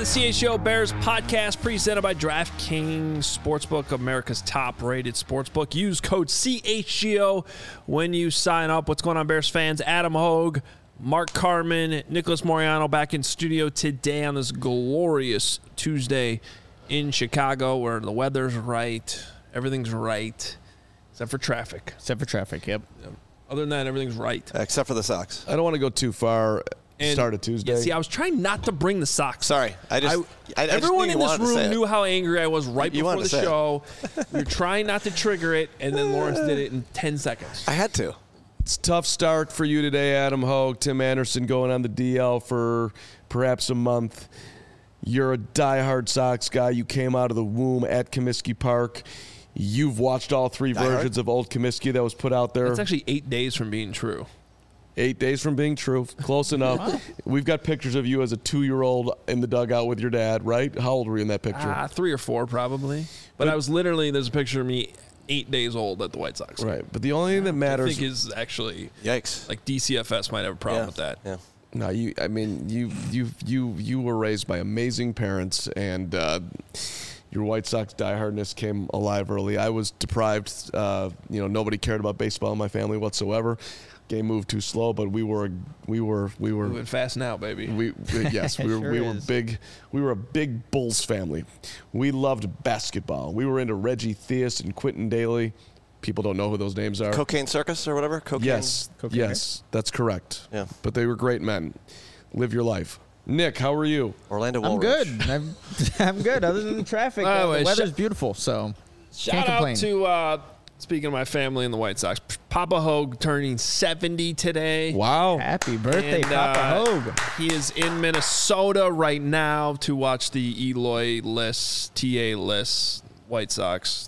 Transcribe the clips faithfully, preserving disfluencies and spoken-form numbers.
C H G O Bears podcast presented by DraftKings Sportsbook, America's top-rated sportsbook. Use code C H G O when you sign up. What's going on, Bears fans? Adam Hogue, Mark Carman, Nicholas Moriano back in studio today on this glorious Tuesday in Chicago where the weather's right, everything's right, except for traffic. Except for traffic, yep. yep. Other than that, everything's right. Except for the Sox. I don't want to go too far. And, Start a Tuesday. Yeah, see, I was trying not to bring the socks. Sorry, I just. I, I everyone just in this room knew how angry I was right you before the to show. We were trying not to trigger it, and then Lawrence did it in ten seconds. I had to. It's a tough start for you today, Adam Hogue. Tim Anderson going on the D L for perhaps a month. You're a diehard Sox guy. You came out of the womb at Comiskey Park. You've watched all three Die versions hard? of Old Comiskey that was put out there. It's actually eight days from being true. Eight days from being true. Close enough. We've got pictures of you as a two-year-old in the dugout with your dad, right? How old were you in that picture? Uh, three or four, probably. But, but I was literally, there's a picture of me eight days old at the White Sox. Right. But the only thing that matters. I think is actually. Yikes. Like D C F S might have a problem yeah. with that. Yeah. No, you. I mean, you, you, you, you were raised by amazing parents, and uh, your White Sox diehardness came alive early. I was deprived. Uh, you know, nobody cared about baseball in my family whatsoever. Game moved too slow, but we were, we were, we were moving fast now, baby. We, we yes, we were, sure we were is. big. We were a big Bulls family. We loved basketball. We were into Reggie Theus and Quentin Daly. People don't know who those names are. Cocaine Circus or whatever. Cocaine. Yes, Cocaine. yes, that's correct. Yeah, but they were great men. Live your life. Nick, how are you? Orlando I'm Woolrich. good. I'm, I'm good. Other than the traffic, By the uh, way, the weather's sh- beautiful, so Shout can't out complain. to, uh, speaking of my family and the White Sox, Papa Hogue turning seventy today. Wow. Happy birthday, And, Papa uh, Hogue. He is in Minnesota right now to watch the Eloy Liss, T A Liss White Sox.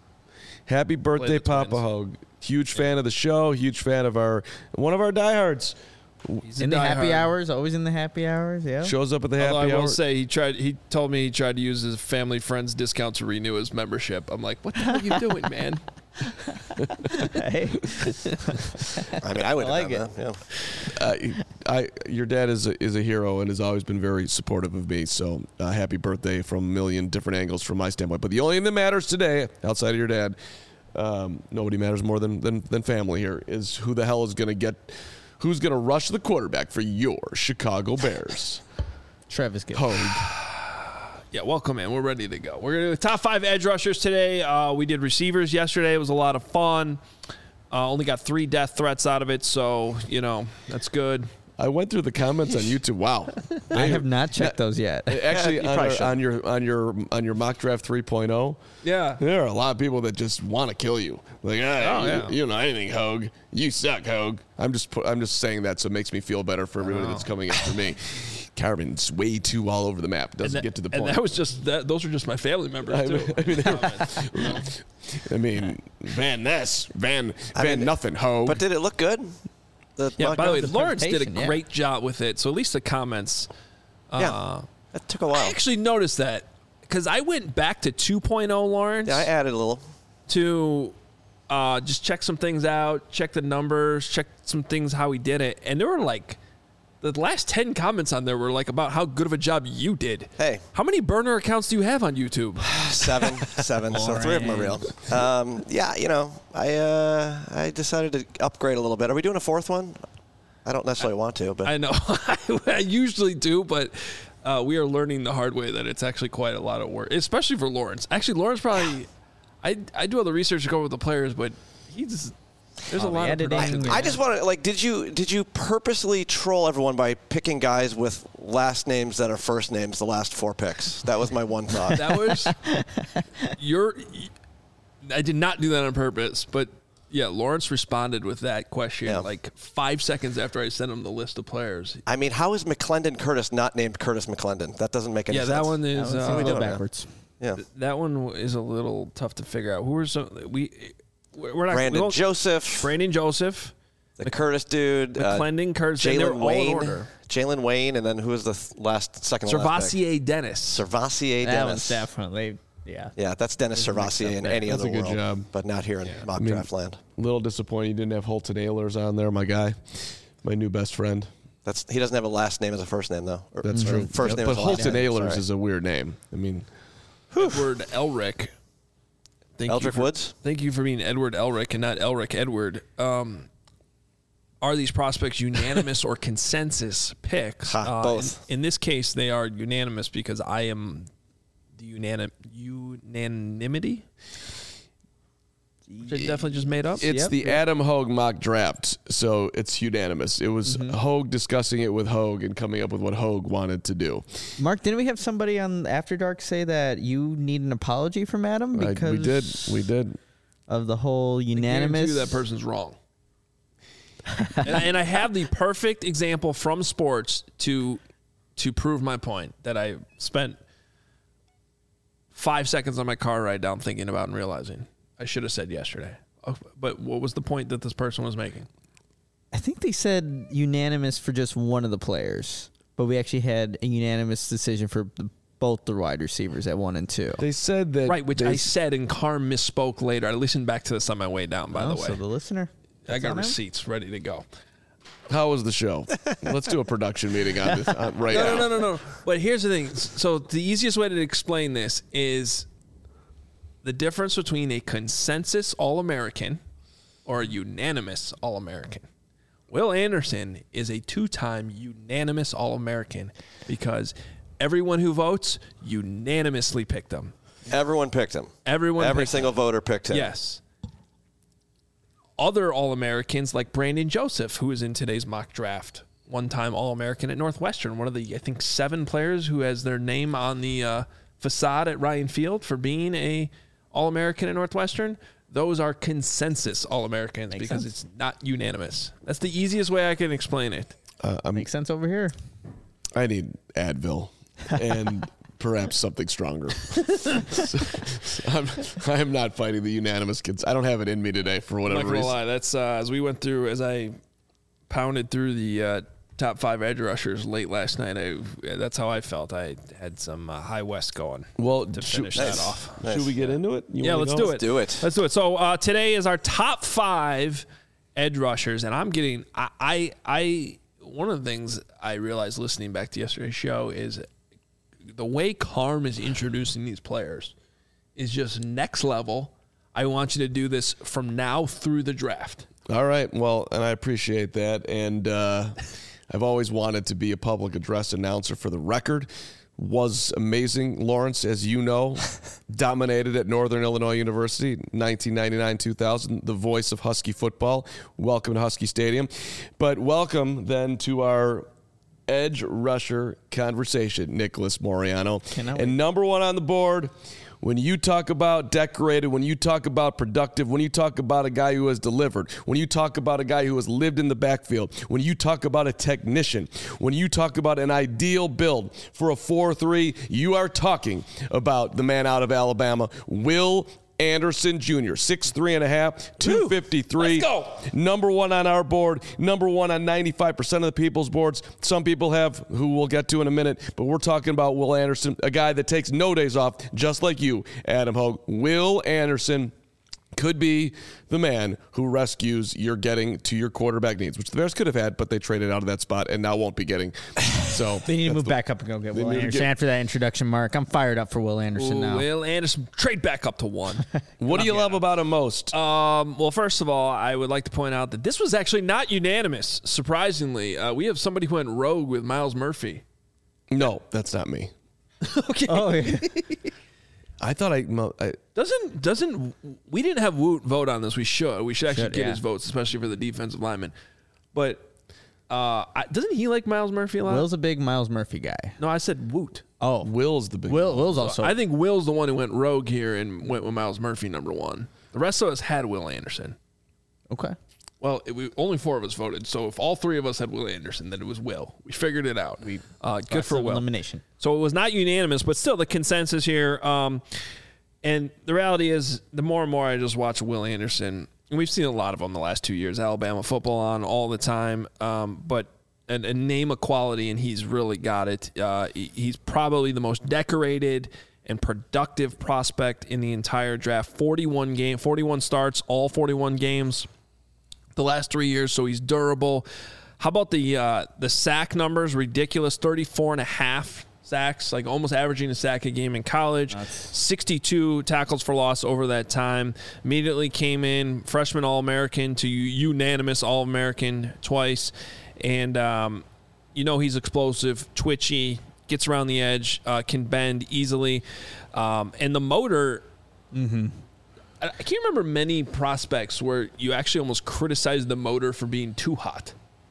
Happy birthday, Papa Twins. Hogue. Huge fan of the show. Huge fan of our one of our diehards. He's a In the happy diehard. hours, always in the happy hours, yeah. Shows up at the Although happy I will hour. say he tried. He told me he tried to use his family friends discount to renew his membership. I'm like, what the hell are you doing, man? Hey. I mean, I would I have like done it. that. Yeah. Uh, I, your dad is a, is a hero and has always been very supportive of me. So uh, happy birthday from a million different angles from my standpoint. But the only thing that matters today, outside of your dad, um, nobody matters more than, than than family here, is who the hell is going to get, who's going to rush the quarterback for your Chicago Bears. Travis Gill. Hogue. Yeah, welcome in. We're ready to go. We're going to do the top five edge rushers today. Uh, we did receivers yesterday. It was a lot of fun. Uh, only got three death threats out of it, so, you know, that's good. I went through the comments on YouTube. Wow. I have not checked those yet. Actually, you on, probably our, should. on your on your on your mock draft three point oh, Yeah. there are a lot of people that just want to kill you. Like, ah, Oh, you, yeah. you don't know anything, Hogue. You suck, Hogue. I'm just pu- I'm just saying that so it makes me feel better for everybody that's coming after me. Carmen's way too all over the map. Doesn't that, get to the and point. that was just that. Those are just my family members I too. mean, I mean, I mean, Van Ness, Van I Van mean, nothing, Hogue. But did it look good? The yeah. mock By the way, draft? Lawrence did a presentation, yeah. great job with it. So at least the comments. Yeah. Uh, That took a while. I actually noticed that because I went back to two point oh, Lawrence, yeah, I added a little. to uh, just check some things out, check the numbers, check some things how he did it, and there were like the last ten comments on there were like about how good of a job you did. Hey. How many burner accounts do you have on YouTube? Seven, seven. So three of them are real. Um, yeah, you know, I uh, I decided to upgrade a little bit. Are we doing a fourth one? I don't necessarily want to, but I know. I usually do, but uh, we are learning the hard way that it's actually quite a lot of work, especially for Lawrence. Actually, Lawrence probably, I, I do all the research to go with the players, but he's there's Oh, a the lot of editing, production. yeah. I just want to like, did you did you purposely troll everyone by picking guys with last names that are first names? The last four picks. That was my one thought. That was your. I did not do that on purpose, but yeah, Lawrence responded with that question Yeah. like five seconds after I sent him the list of players. I mean, how is McClendon Curtis not named Curtis McClendon? That doesn't make any Yeah, sense. that one That is one's a uh, little doing, man? backwards. Yeah. that one is a little tough to figure out. Who are some we? We're not Brandon we won't- Joseph, Brandon Joseph, the Curtis dude, uh, McClendon, Curtis, and they're Jalen all in Wayne, order. Jalen Wayne, and then who was the th- last second to last pick? Servassier Dennis. Servassier That one's Dennis. definitely, yeah. Yeah, that's Dennis Servassier in any That's other a good world, job. but not here in mock I mean, draft land. A little disappointed you didn't have Holton Ahlers on there, my guy, my new best friend. That's he doesn't have a last name as a first name though. Or, That's true. First Yeah, name but as a last Holton name. Ahlers Sorry. is a weird name. I mean, Edward Elric. Thank you Eldrick for- Woods? Thank you for being Edward Elric and not Elric Edward. Um, are these prospects unanimous or consensus picks? Ha, Uh, both. In, in this case, they are unanimous because I am the unanim- unanimity. Which I definitely just made up. it's Yep, the yep. Adam Hogue mock draft, so it's unanimous. It was Mm-hmm. Hogue discussing it with Hogue and coming up with what Hogue wanted to do. Mark, didn't we have somebody on After Dark say that you need an apology from Adam I- because we did. We did. of the whole I guarantee unanimous? you that person's wrong. and, I, and I have the perfect example from sports to to prove my point that I spent five seconds on my car ride down thinking about and realizing I should have said yesterday. Oh, but what was the point that this person was making? I think they said unanimous for just one of the players, but we actually had a unanimous decision for the, both the wide receivers at one and two. They said that. Right, which they, I said, and Carm misspoke later. I listened back to this on my way down, by Oh, the way. so the listener. I that's got on him? receipts ready to go. How was the show? Let's do a production meeting on this uh, right No, now. no, no, no, no. But here's the thing. So the easiest way to explain this is the difference between a consensus All-American or a unanimous All-American. Will Anderson is a two-time unanimous All-American because everyone who votes unanimously picked him. Everyone picked him. Everyone Every picked single him. voter picked him. Yes. Other All-Americans like Brandon Joseph, who is in today's mock draft, one-time All-American at Northwestern, one of the, I think, seven players who has their name on the uh, facade at Ryan Field for being a All-American at Northwestern. Those are consensus All-Americans Makes because sense. it's not unanimous. That's the easiest way I can explain it. Uh, I'm, Makes sense over here. I need Advil and perhaps something stronger. I'm, I am not fighting the unanimous kids. I don't have it in me today for I'm whatever not gonna reason. lie. That's uh, as we went through, as I pounded through the uh, top five edge rushers late last night. I, that's how I felt. I had some uh, high west going. Well, to should, finish that off. Nice. should we get into it? You Yeah, wanna let's go? do it. do it. Let's do it. So uh, today is our top five edge rushers, and I'm getting. I, I, I. One of the things I realized listening back to yesterday's show is the way Carm is introducing these players is just next level. I want you to do this from now through the draft. All right. Well, and I appreciate that. And uh, I've always wanted to be a public address announcer for the record. Was amazing. Lawrence, as you know, dominated at Northern Illinois University, nineteen ninety-nine two thousand, the voice of Husky football. Welcome to Husky Stadium. But welcome then to our edge rusher conversation, Nicholas Moriano. Cannot And wait. number one on the board, when you talk about decorated, when you talk about productive, when you talk about a guy who has delivered, when you talk about a guy who has lived in the backfield, when you talk about a technician, when you talk about an ideal build for a four three, you are talking about the man out of Alabama, Will Anderson Junior six three and a half, two fifty-three. Let's go. Number one on our board, number one on ninety-five percent of the people's boards. Some people have, who we'll get to in a minute, but we're talking about Will Anderson, a guy that takes no days off, just like you, Adam Hogue. Will Anderson could be the man who rescues your getting to your quarterback needs, which the Bears could have had, but they traded out of that spot and now won't be getting. So They need to that's move the- back up and go get They Will need to Anderson. get- After that introduction, Mark, I'm fired up for Will Anderson now. Will Anderson, trade back up to one. What do you love about him most? Um, well, first of all, I would like to point out that this was actually not unanimous. Surprisingly, uh, we have somebody who went rogue with Miles Murphy. No, that's not me. Okay. Oh, yeah. I thought I, mo- I Doesn't doesn't we didn't have Woot vote on this? We should. We should actually Should, get yeah. his votes, especially for the defensive lineman. But uh, I, doesn't he like Miles Murphy a lot? Will's a big Miles Murphy guy. no, I said Woot. Oh, Will's the big Will. Will's also. I think Will's the one who went rogue here and went with Miles Murphy number one. The rest of us had Will Anderson. okay. Well, it, we, only four of us voted. So if all three of us had Will Anderson, then it was Will. We figured it out. We uh, good for Process of Will. elimination. So it was not unanimous, but still the consensus here. Um, and the reality is, the more and more I just watch Will Anderson, and we've seen a lot of them the last two years, Alabama football on all the time, um, but and, and name a quality, and he's really got it. Uh, he, he's probably the most decorated and productive prospect in the entire draft. forty-one game, forty-one starts, all forty-one games the last three years, so he's durable. How about the uh, the sack numbers? Ridiculous, thirty-four and a half sacks, like almost averaging a sack a game in college. That's... sixty-two tackles for loss over that time. Immediately came in freshman All-American to unanimous All-American twice. And, um, you know, he's explosive, twitchy, gets around the edge, uh, can bend easily. Um, and the motor, mm-hmm. I, I can't remember many prospects where you actually almost criticize the motor for being too hot.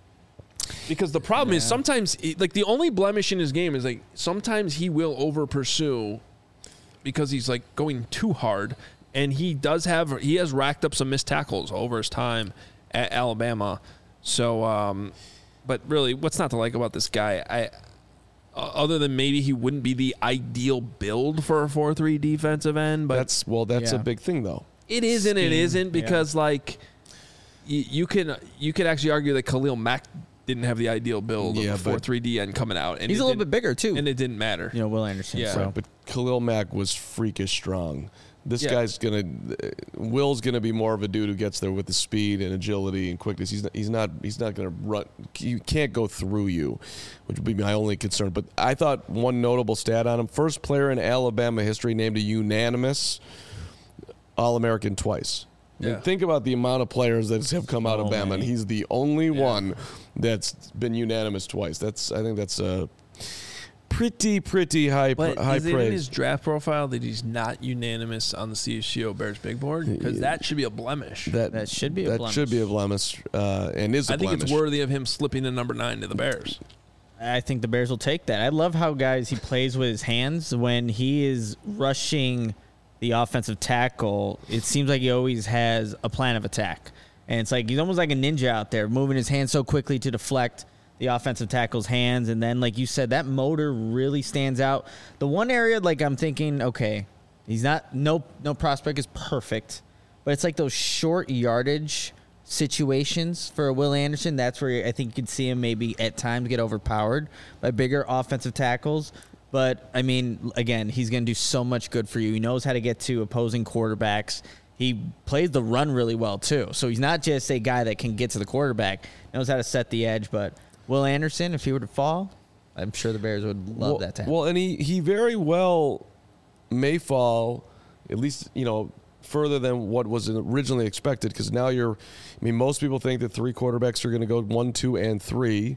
Because the problem yeah. is sometimes, like, the only blemish in his game is, like, sometimes he will over pursue because he's, like, going too hard. And he does have, he has racked up some missed tackles over his time at Alabama. So, um, but really, what's not to like about this guy? I, uh, other than maybe he wouldn't be the ideal build for a four three defensive end. But that's, well, that's yeah. a big thing, though. It is and it isn't because, yeah. like, you, you can you could actually argue that Khalil Mack didn't have the ideal build yeah, of a four three D end coming out. And he's a little bit bigger, too. And it didn't matter. You know, Will Anderson. Yeah. So. Right, but Khalil Mack was freakish strong. This yeah. guy's going to – Will's going to be more of a dude who gets there with the speed and agility and quickness. He's not He's not, he's not going to run – he can't go through you, which would be my only concern. But I thought one notable stat on him, first player in Alabama history named a unanimous All-American twice. I mean, yeah. think about the amount of players that have come out of oh, Bama, man. and he's the only yeah. one that's been unanimous twice. That's I think that's a pretty, pretty high but high is praise. it in his draft profile that he's not unanimous on the C H G O Bears big board? Because that should be a blemish. That, that should be a that blemish. should be a blemish, uh, and is a I think blemish. it's worthy of him slipping to number nine to the Bears. I think the Bears will take that. I love how, guys, he plays with his hands when he is rushing the offensive tackle. It seems like he always has a plan of attack. And it's like he's almost like a ninja out there, moving his hands so quickly to deflect the offensive tackle's hands. And then, like you said, that motor really stands out. The one area, like, I'm thinking, okay, he's not, no, no prospect is perfect, but it's like those short yardage situations for Will Anderson. That's where I think you could see him maybe at times get overpowered by bigger offensive tackles. But, I mean, again, he's going to do so much good for you. He knows how to get to opposing quarterbacks. He plays the run really well, too. So he's not just a guy that can get to the quarterback. He knows how to set the edge. But Will Anderson, if he were to fall, I'm sure the Bears would love well, that to happen. Well, and he, he very well may fall, at least, you know, further than what was originally expected. Because now you're, I mean, most people think that three quarterbacks are going to go one, two, and three.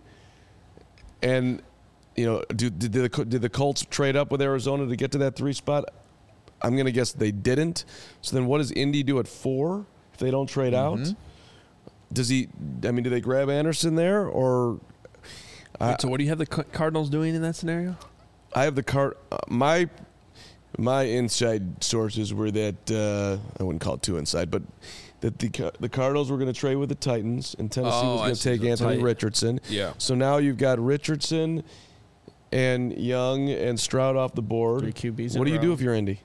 And... You know, do, did, the, did the Colts trade up with Arizona to get to that three spot? I'm going to guess they didn't. So then what does Indy do at four if they don't trade mm-hmm. out? Does he – I mean, do they grab Anderson there or uh, – Wait, so what do you have the Cardinals doing in that scenario? I have the card uh, – my my inside sources were that uh, – I wouldn't call it too inside, but that the the Cardinals were going to trade with the Titans and Tennessee oh, was going to take Anthony tight. Richardson. Yeah. So now you've got Richardson – and Young and Stroud off the board. Three Q Bs. What do you do if you're Indy?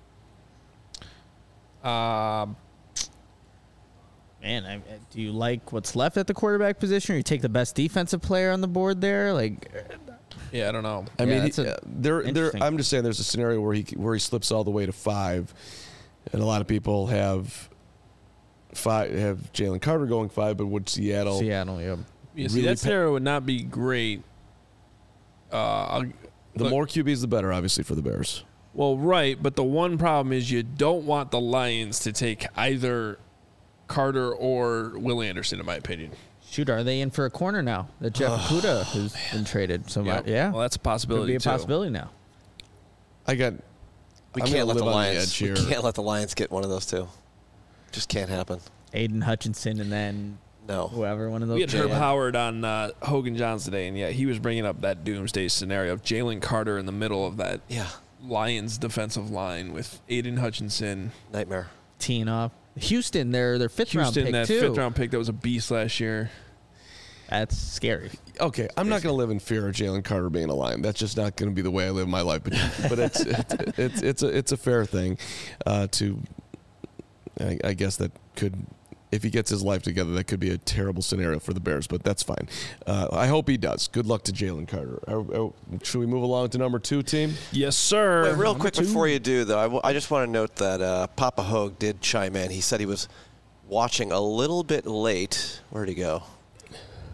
Um, Man, I, do you like what's left at the quarterback position, or you take the best defensive player on the board there? Like, yeah, I don't know. I Yeah, mean, that's he, a- uh, there, there. interesting. I'm just saying, there's a scenario where he where he slips all the way to five, and a lot of people have five have Jalen Carter going five, but would Seattle? Seattle, yeah. Yeah, see, really that scenario would not be great. Uh, I'll, The look, more Q Bs, the better, obviously, for the Bears. Well, right, but the one problem is you don't want the Lions to take either Carter or Will Anderson, in my opinion. Shoot, are they in for a corner now? That Jeff Okudah has been traded. So Yeah. much, yeah. Well, that's a possibility, Could be a too. possibility now. I got. We I'm can't gonna let the live on the Lions. edge We here. can't let the Lions get one of those two. Just can't happen. Aiden Hutchinson and then No. whoever, one of those. We had two. Herb Yeah. Howard on uh, Hogan Johns today, and yeah, he was bringing up that doomsday scenario of Jalen Carter in the middle of that Yeah. Lions defensive line with Aiden Hutchinson. Nightmare. Teeing off. Houston, their their fifth round Houston, pick that too. fifth round pick that was a beast last year. That's scary. Okay, I'm not going to live in fear of Jalen Carter being a Lion. That's just not going to be the way I live my life. But but it's it's it's, it's a it's a fair thing uh, to. I, I guess that could, if he gets his life together, that could be a terrible scenario for the Bears. But that's fine. Uh, I hope he does. Good luck to Jalen Carter. Are, are, should we move along to number two, team? Yes, sir. Wait, real Number quick two. before you do, though, I, w- I just want to note that uh, Papa Hogue did chime in. He said he was watching a little bit late. Where'd he go?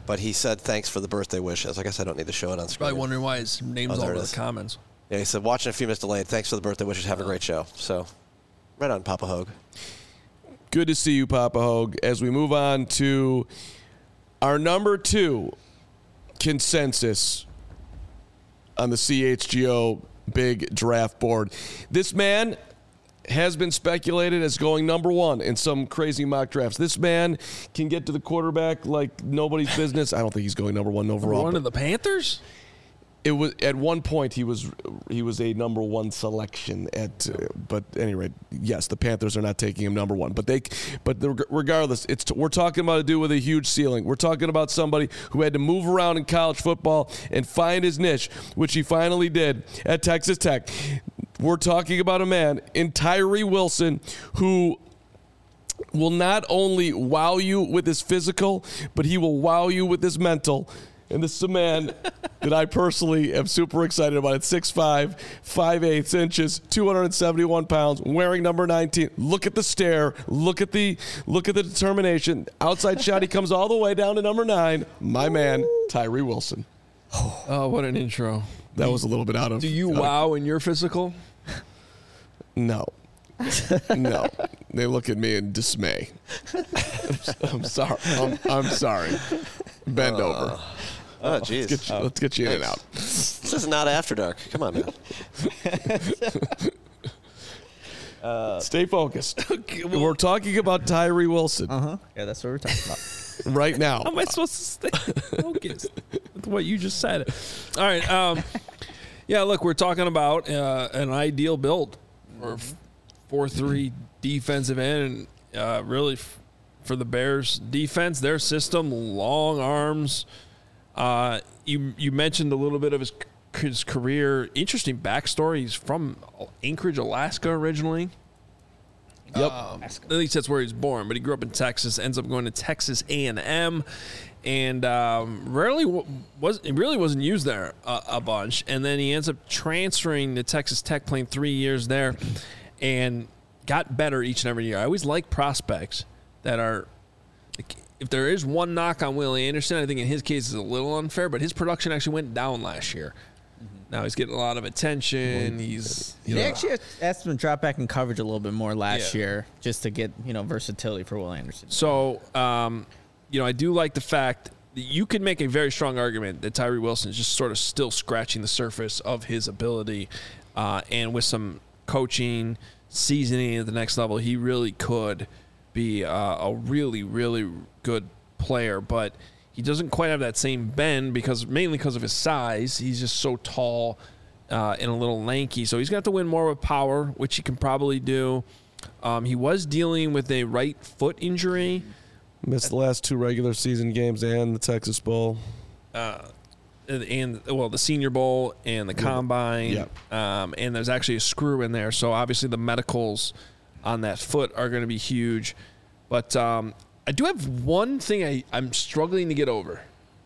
but he said thanks for the birthday wishes. I guess I don't need to show it on screen. Probably wondering why his name's Oh, all there it over is. the comments. Yeah, he said, watching a few minutes delayed. Thanks for the birthday wishes. Have a great show. So, right on, Papa Hogue. Good to see you, Papa Hogue. As we move on to our number two consensus on the C H G O big draft board. This man has been speculated as going number one in some crazy mock drafts. This man can get to the quarterback like nobody's business. I don't think he's going number one overall. One of the Panthers? It was at one point he was he was a number one selection at, uh, but at any rate, yes, the Panthers are not taking him number one. But they, but the, regardless, it's we're talking about a dude with a huge ceiling. We're talking about somebody who had to move around in college football and find his niche, which he finally did at Texas Tech. We're talking about a man in Tyree Wilson who will not only wow you with his physical, but he will wow you with his mental. And this is a man that I personally am super excited about. At six five, five eighths inches, two hundred seventy-one pounds, wearing number nineteen. Look at the stare. Look at the look at the determination. Outside shot, he comes all the way down to number nine. My man, Tyree Wilson. Oh, what an intro. That was a little bit out of. Do you out of- wow in your physical? No. No. They look at me in dismay. I'm, I'm sorry. I'm, I'm sorry. Bend Uh, over. Oh, jeez. Let's get you, let's get you in and out. This is not After Dark. Come on, man. Stay focused. We're talking about Tyree Wilson Uh huh. Yeah, that's what we're talking about. right now. How am I supposed to stay focused with what you just said? All right. Um, yeah, look, we're talking about uh, an ideal build for four three defensive end. And, uh, really, f- for the Bears defense, their system, long arms. Uh, you you mentioned a little bit of his his career. Interesting backstory. He's from Anchorage, Alaska originally. Yep. Um, at least that's where he was born, but he grew up in Texas. Ends up going to Texas A and M, and um, rarely w- was he really wasn't used there a, a bunch. And then he ends up transferring to Texas Tech, playing three years there, and got better each and every year. I always like prospects that are. Like, if there is one knock on Willie Anderson, I think in his case is a little unfair, but his production actually went down last year. Now he's getting a lot of attention. He's you They know, actually asked him to drop back in coverage a little bit more last Yeah. year just to get, you know, versatility for Will Anderson. So, um, you know, I do like the fact that you could make a very strong argument that Tyree Wilson is just sort of still scratching the surface of his ability. Uh, and with some coaching, seasoning at the next level, he really could be uh, a really, really good player. But he doesn't quite have that same bend because mainly because of his size. He's just so tall uh, and a little lanky. So he's got to win more with power, which he can probably do. Um, he was dealing with a right foot injury. Missed the last two regular season games and the Texas Bowl. Uh, and well, the Senior Bowl and the Combine, Yep. um, and there's actually a screw in there. So obviously the medicals on that foot are going to be huge. But um, I do have one thing I, I'm struggling to get over.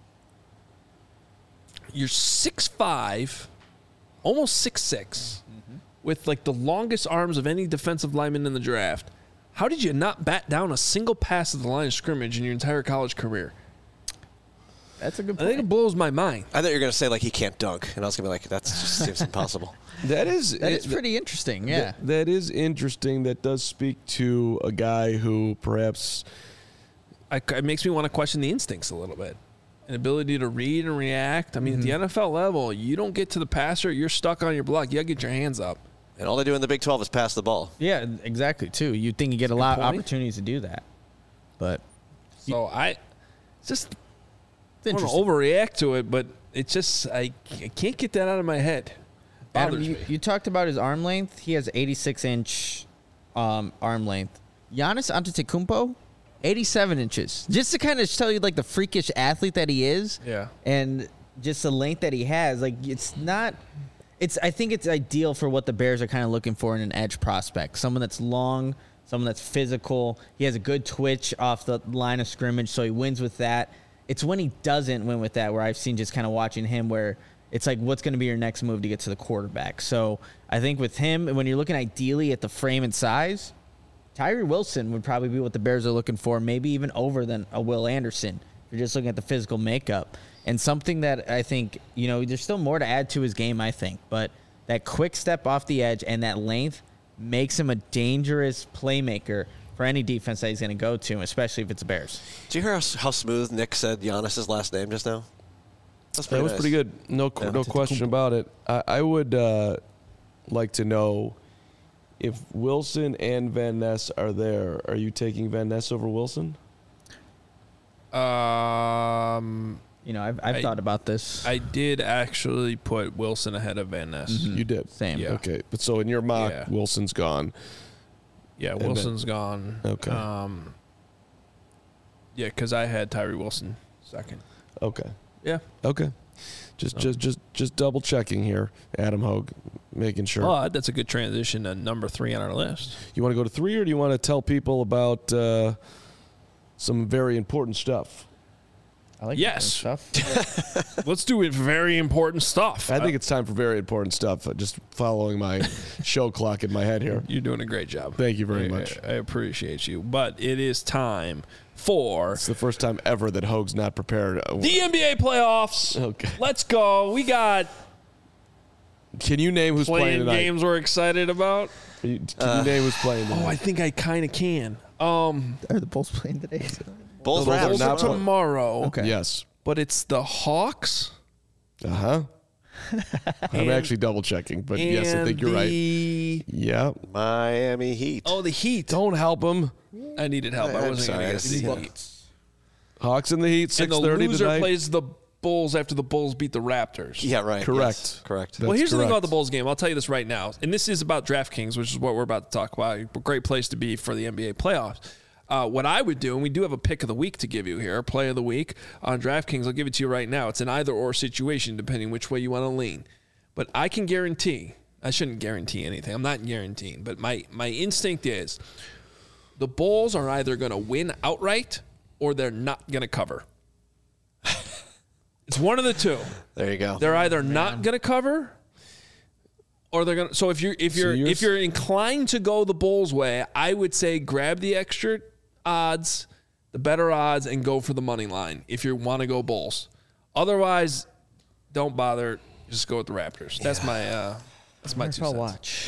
You're six five, almost six six, mm-hmm. with like the longest arms of any defensive lineman in the draft. How did you not bat down a single pass at the line of scrimmage in your entire college career? That's a good I point. think it blows my mind. I thought you were going to say, like, he can't dunk. And I was going to be like, that just seems impossible. That is That is pretty interesting, yeah. That, that is interesting. That does speak to a guy who perhaps I, it makes me want to question the instincts a little bit. An ability to read and react. I mean, Mm-hmm. at the N F L level, you don't get to the passer, you're stuck on your block. You got to get your hands up. And all they do in the Big twelve is pass the ball. Yeah, exactly, too. You'd think you get a good lot of point. opportunities to do that. But So I it's just it's I don't interesting. overreact to it, but it's just, I, I can't get that out of my head. Adam, Bothers you, me. you talked about his arm length. He has eighty-six inch um, arm length. Giannis Antetokounmpo, eighty-seven inches. Just to kind of tell you, like, the freakish athlete that he is. Yeah. And just the length that he has. Like, it's not... It's. I think it's ideal for what the Bears are kind of looking for in an edge prospect. Someone that's long, someone that's physical. He has a good twitch off the line of scrimmage, so he wins with that. It's when he doesn't win with that where I've seen just kind of watching him where it's like, what's going to be your next move to get to the quarterback? So I think with him, when you're looking ideally at the frame and size, Tyree Wilson would probably be what the Bears are looking for, maybe even over than a Will Anderson If you're just looking at the physical makeup. And something that I think, you know, there's still more to add to his game, I think. But that quick step off the edge and that length makes him a dangerous playmaker for any defense that he's going to go to, especially if it's the Bears. Did you hear how, how smooth Nick said Giannis's last name just now? That's pretty That was nice. pretty good. No, Yeah. no question about it. I, I would uh, like to know if Wilson and Van Ness are there. Are you taking Van Ness over Wilson? Um, You know, I've, I've I- thought about this. I did actually put Wilson ahead of Van Ness. Mm-hmm. You did. Same. Yeah. Okay, but so in your mock, Yeah. Wilson's gone. Yeah, then- Wilson's gone. Okay. Um, yeah, because I had Tyree Wilson second. Okay. Yeah. Okay. Just, just, just, just double checking here, Adam Hogue, making sure. But that's a good transition to number three on our list. You want to go to three, or do you want to tell people about uh, some very important stuff? I like Yes. that stuff. Let's do it. Very important stuff. I think it's time for very important stuff. Uh, Just following my show clock in my head here. You're doing a great job. Thank you very I- much. I, I appreciate you. But it is time for It's the first time ever that Hogue's not prepared. Uh, the N B A playoffs. Okay. Let's go. We got Can you name who's playing playing tonight? games we're excited about. Can you, can you name who's playing tonight? Oh, I think I kind of can. Um, Are the Bulls playing today? Bulls Bulls are Raptors. not- tomorrow. Okay. Yes. But it's the Hawks. Uh huh. I'm And- actually double checking, but yes, I and think you're right. the- Yeah. Miami Heat. Oh, the Heat. Don't help him. I needed help. I I'm wasn't sorry, going I to see get the that. Heat. Hawks in the Heat, And six the thirty loser tonight. plays the Bulls after the Bulls beat the Raptors. Yeah, right. Correct. Yes, correct. That's well, here's the thing correct. about the Bulls game. I'll tell you this right now. And this is about DraftKings, which is what we're about to talk about. A great place to be for the N B A playoffs. Uh, what I would do, and we do have a pick of the week to give you here, play of the week on DraftKings. I'll give it to you right now. It's an either-or situation, depending which way you want to lean. But I can guarantee, I shouldn't guarantee anything. I'm not guaranteeing, but my, my instinct is the Bulls are either going to win outright or they're not going to cover. It's one of the two. There you go. They're either not going to cover, or they're going to. So if you're if So you're you're if you're inclined to go the Bulls' way, I would say grab the extra odds, the better odds, and go for the money line if you want to go Bulls. Otherwise, don't bother. Just go with the Raptors. That's my uh, that's my Wonder two if I'll cents. watch.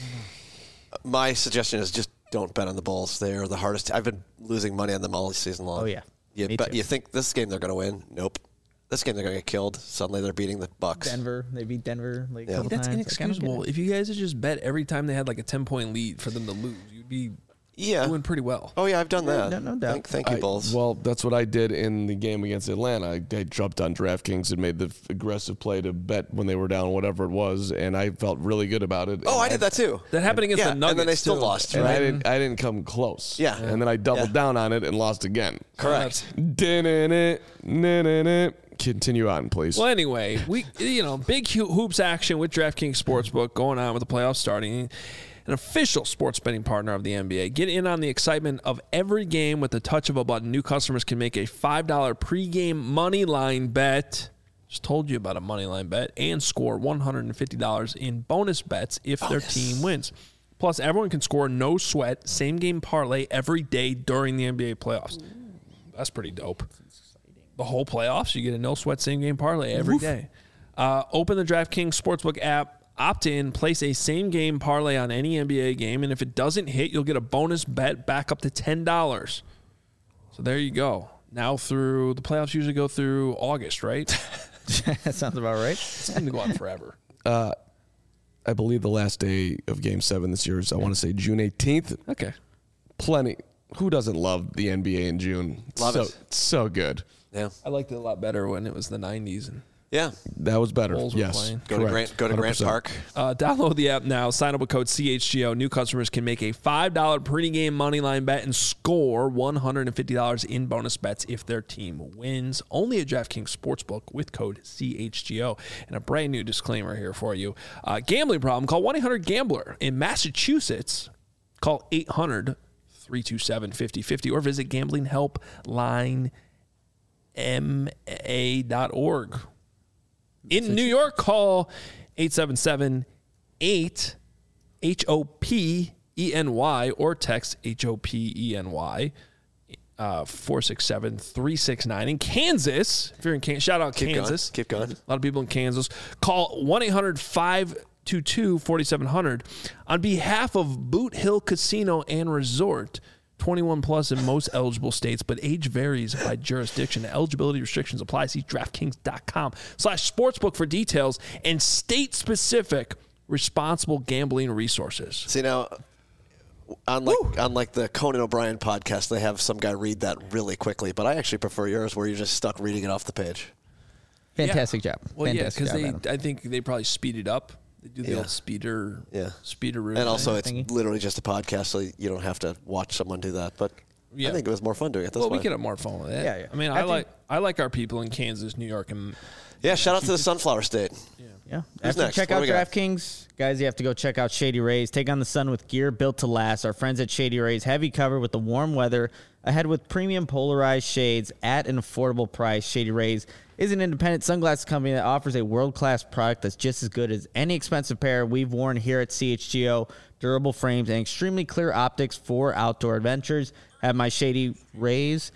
My suggestion is just don't bet on the Bulls. They are the hardest. I've been losing money on them all season long. Oh, yeah. You, Me bet, too. you think this game they're going to win? Nope. This game they're going to get killed. Suddenly they're beating the Bucks. Denver. They beat Denver like Yeah. a couple That's times. Like, I don't get inexcusable. it. If you guys had just bet every time they had like a ten point lead for them to lose, you'd be Yeah. doing pretty well. Oh yeah, I've done that. no- no doubt. Thank, thank you, I- Bulls. well, that's what I did in the game against Atlanta. I, I jumped on DraftKings and made the f- aggressive play to bet when they were down, whatever it was, and I felt really good about it. oh, And I did that too. That happened against Yeah, the and Nuggets. then they still too. lost, And right? I didn't. I didn't come close. Yeah. And then I doubled Yeah. down on it and lost again. Correct. Din-in-it, nin-in-it. Continue on, please. Well, anyway, we you know big ho- hoops action with DraftKings Sportsbook going on with the playoffs starting. An official sports betting partner of the N B A. Get in on the excitement of every game with the touch of a button. New customers can make a five dollar pregame money line bet. Just told you about a money line bet and score one hundred fifty dollars in bonus bets if their team wins. Plus, everyone can score no sweat same game parlay every day during the N B A playoffs. That's pretty dope. The whole playoffs, you get a no sweat same game parlay every day. Uh, open the DraftKings Sportsbook app, opt in, place a same game parlay on any N B A game, and if it doesn't hit, you'll get a bonus bet back up to ten dollars. So there you go. Now through the playoffs usually go through August, right? That sounds about right. It's going to go on forever. I believe the last day of Game Seven this year is I want to say June eighteenth. Okay. Plenty. Who doesn't love the N B A in June? It's Love so, it. So good. Yeah. I liked it a lot better when it was the nineties. And Yeah. That was better. Bulls were Yes. playing. Go to Correct. Grant. Go to Grant one hundred Park. percent. Uh, download the app now. Sign up with code C H G O. New customers can make a five dollar pregame money line bet and score one hundred fifty dollars in bonus bets if their team wins. Only at DraftKings Sportsbook with code C H G O. And a brand new disclaimer here for you. Uh, gambling problem? Call one eight hundred gambler. In Massachusetts, call eight hundred three two seven five oh five oh or visit gambling help line m a dot org. In New York, call eight seven seven eight H O P E N Y or text H O P E N Y uh, four six seven, three six nine. In Kansas, if you're in Kansas, shout out Keep Kansas. Going. Keep going. A lot of people in Kansas. Call one eight hundred five two two four seven zero zero on behalf of Boot Hill Casino and Resort. twenty-one plus in most eligible states, but age varies by jurisdiction. Eligibility restrictions apply. See DraftKings.com slash sportsbook for details and state-specific responsible gambling resources. See, now, unlike, unlike the Conan O'Brien podcast, they have some guy read that really quickly, but I actually prefer yours where you're just stuck reading it off the page. Fantastic yeah. job. Well, Fantastic yeah, because job, they, I think they probably speed it up. They do the Yeah. old speeder, Yeah. speeder route. And also, Right. it's Thingy. literally just a podcast, so you don't have to watch someone do that. But Yeah. I think it was more fun doing it this well, way. we could have more fun with it. Yeah, yeah. I mean, I I, think- like I like our people in Kansas, New York, and yeah, shout out to the Sunflower State. Yeah. Who's After next? you check What out do we got? DraftKings, guys, you have to go check out Shady Rays. Take on the sun with gear built to last. Our friends at Shady Rays have you covered with the warm weather ahead with premium polarized shades at an affordable price. Shady Rays is an independent sunglasses company that offers a world-class product that's just as good as any expensive pair we've worn here at C H G O. Durable frames and extremely clear optics for outdoor adventures. Have my Shady Rays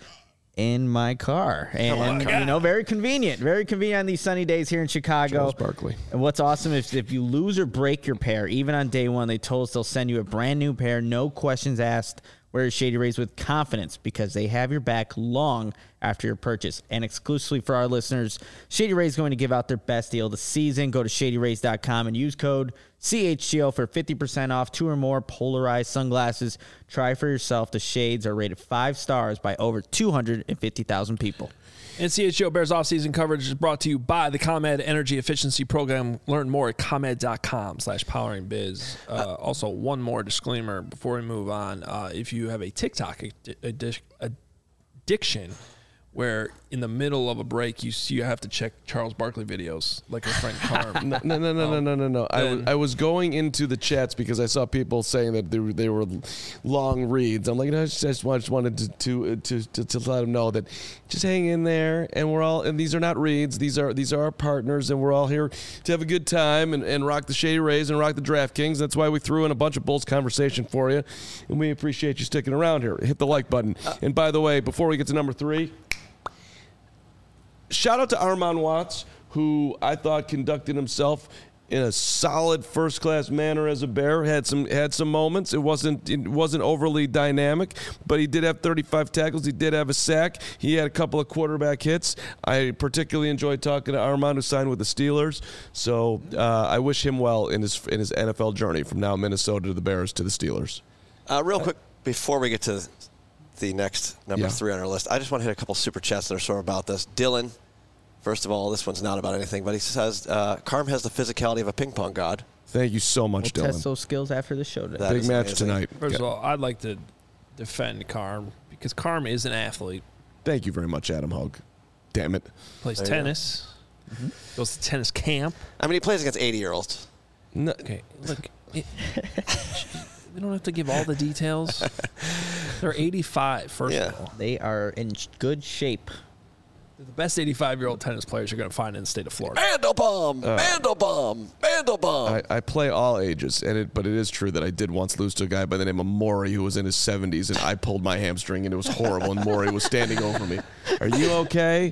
in my car. And, you know, very convenient. Very convenient on these sunny days here in Chicago. Charles Barkley. And what's awesome is if you lose or break your pair, even on day one, they told us they'll send you a brand new pair, no questions asked. Wear Shady Rays with confidence because they have your back long after your purchase. And exclusively for our listeners, Shady Rays is going to give out their best deal of the season. Go to shady rays dot com and use code C H G O for fifty percent off two or more polarized sunglasses. Try for yourself. The shades are rated five stars by over two hundred fifty thousand people. And C H G O Bears offseason coverage is brought to you by the ComEd Energy Efficiency Program. Learn more at ComEd.com slash powering biz. Uh, also, one more disclaimer before we move on. Uh, if you have a TikTok addi- addiction where in the middle of a break you see you have to check Charles Barkley videos like our friend Carm. No, no, no, no, no, no, no, no. I was, Then- I was going into the chats because I saw people saying that they were, they were long reads. I'm like, no, I just, I just wanted, just wanted to, to, to, to, to let them know that just hang in there, and we're all, and these are not reads. These are these are our partners, and we're all here to have a good time and, and rock the Shady Rays and rock the DraftKings. That's why we threw in a bunch of Bulls conversation for you, and we appreciate you sticking around here. Hit the like button. And by the way, before we get to number three, shout out to Armand Watts, who I thought conducted himself in a solid first-class manner as a Bear. Had some had some moments. It wasn't it wasn't overly dynamic, but he did have thirty-five tackles. He did have a sack. He had a couple of quarterback hits. I particularly enjoyed talking to Armand, who signed with the Steelers. So uh, I wish him well in his in his N F L journey from now Minnesota to the Bears to the Steelers. Uh, real quick, before we get to the next number Yeah. three on our list, I just want to hit a couple super chats that are sort of about this. Dylan, first of all, this one's not about anything, but he says, uh, Carm has the physicality of a ping pong god. Thank you so much, We'll test Dylan. those skills after the show today. That Big is match amazing. tonight. First of Yeah. all, I'd like to defend Carm because Carm is an athlete. Thank you very much, Adam Hogue. Damn it. Plays There you go. tennis. Goes to tennis camp. I mean, he plays against eighty-year-olds. No, Okay, look, it, we don't have to give all the details. They're eighty-five, first Yeah. of all. They are in sh- good shape. They're the best eighty-five-year-old tennis players you're going to find in the state of Florida. Mandelbaum! Uh, Mandelbaum! Mandelbaum! I, I play all ages, and it, but it is true that I did once lose to a guy by the name of Maury who was in his seventies, and I pulled my hamstring, and it was horrible, and Maury was standing over me. Are you okay?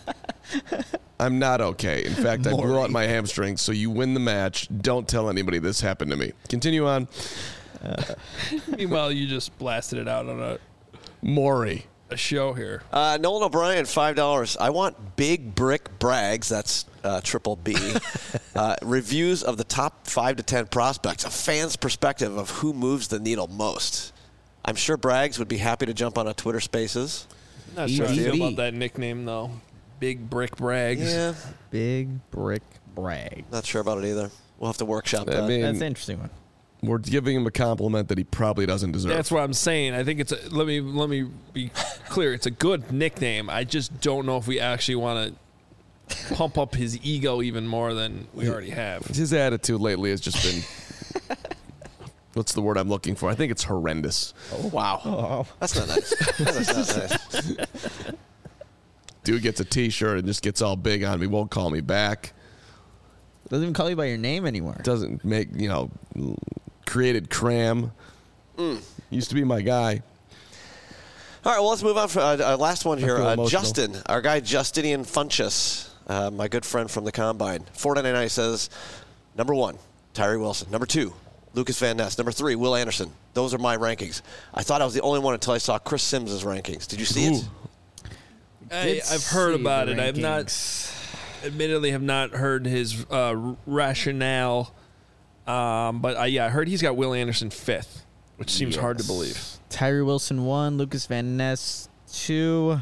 I'm not okay. In fact, I blew out my hamstring, so you win the match. Don't tell anybody this happened to me. Continue on. Meanwhile, you just blasted it out on a, Maury. a show here. Uh, Nolan O'Brien, five dollars. I want Big Brick Brags, that's uh, triple B, uh, reviews of the top five to ten prospects, a fan's perspective of who moves the needle most. I'm sure Braggs would be happy to jump on a Twitter Spaces. Not sure how I feel Easy. about that nickname, though. Big Brick Brags. Yeah, Big brick brag. not sure about it either. We'll have to workshop I that. mean, That's an interesting one. we're giving him a compliment that he probably doesn't deserve. That's what I'm saying. I think it's a, let me let me be clear. It's a good nickname. I just don't know if we actually want to pump up his ego even more than we already have. His attitude lately has just been, what's the word I'm looking for? I think it's horrendous. Oh, wow. That's not nice. That's not nice. Dude gets a T-shirt and just gets all big on me, won't call me back. Doesn't even call you by your name anymore. Doesn't make, you know, created Cram. Mm. Used to be my guy. All right, well, let's move on for uh, uh, last one here. feel Uh, emotional. Justin, our guy Justinian Funchess, uh, my good friend from the Combine. four ninety-nine says, number one, Tyree Wilson. Number two, Lucas Van Ness. Number three, Will Anderson. Those are my rankings. I thought I was the only one until I saw Chris Sims' rankings. Did you see it? I, I've heard about it. I've not, admittedly, have not heard his uh, rationale. Um, but I, yeah, I heard he's got Will Anderson fifth, which seems hard to believe. Tyree Wilson one, Lucas Van Ness two,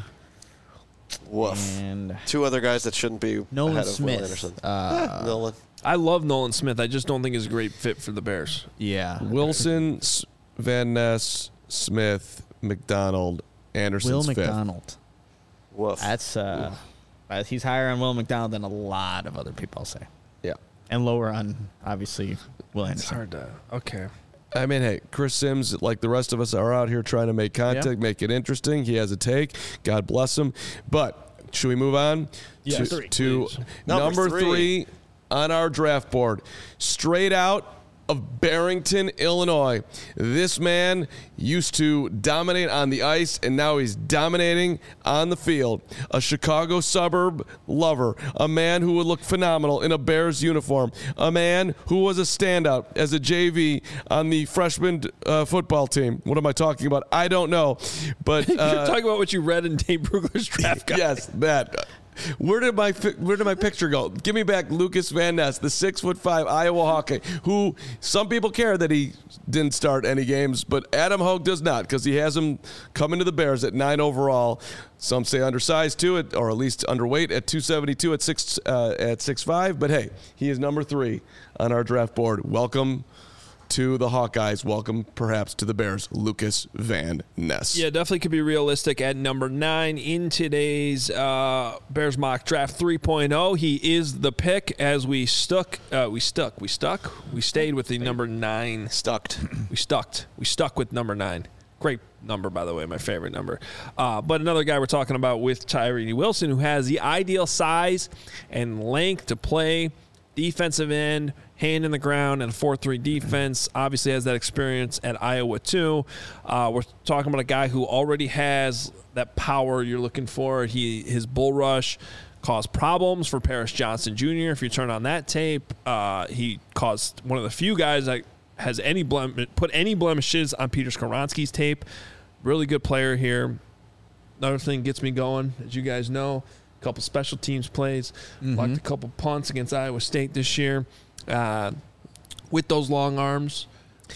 Woof. and Two other guys that shouldn't be Nolan ahead of Will Smith. Anderson. Uh, Eh, Nolan. I love Nolan Smith. I just don't think he's a great fit for the Bears. yeah. Wilson, S- Van Ness, Smith, McDonald, Anderson's Will fifth. McDonald. Woof. That's uh, uh, he's higher on Will McDonald than a lot of other people, I'll say, Yeah. and lower on obviously Will It's Anderson. hard to. Okay. I mean, hey, Chris Sims, like the rest of us, are out here trying to make content, Yeah. make it interesting. He has a take. God bless him. But should we move on Yes, to, three, to please. Number number three. three on our draft board? Straight out of Barrington, Illinois. This man used to dominate on the ice, and now he's dominating on the field. A Chicago suburb lover, a man who would look phenomenal in a Bears uniform, a man who was a standout as a J V on the freshman uh, football team. What am I talking about? I don't know. But You're uh, talking about what you read in Dave Brugler's draft guide. yes, that. Where did my fi- where did my picture go? Give me back Lucas Van Ness, the six foot five Iowa Hawkeye, who some people care that he didn't start any games, but Adam Hogue does not because he has him coming to the Bears at nine overall. Some say undersized too, at, or at least underweight at two seventy-two at six uh, at six five. But hey, he is number three on our draft board. Welcome to the Hawkeyes. Welcome, perhaps, to the Bears, Lucas Van Ness. Yeah, definitely could be realistic at number nine in today's uh, Bears mock draft three point oh. He is the pick as we stuck, uh, we stuck, we stuck, we stayed with the number nine. Stucked. We stuck, we stuck with number nine. Great number, by the way, my favorite number. Uh, but another guy we're talking about with Tyree Wilson, who has the ideal size and length to play defensive end, hand in the ground, and a four three defense. Obviously has that experience at Iowa too. Uh, we're talking about a guy who already has that power you're looking for. He His bull rush caused problems for Paris Johnson Junior If you turn on that tape, uh, he caused one of the few guys that has any blem- put any blemishes on Peter Skoronski's tape. Really good player here. Another thing gets me going, as you guys know, a couple special teams plays, Mm-hmm. blocked a couple punts against Iowa State this year uh, with those long arms,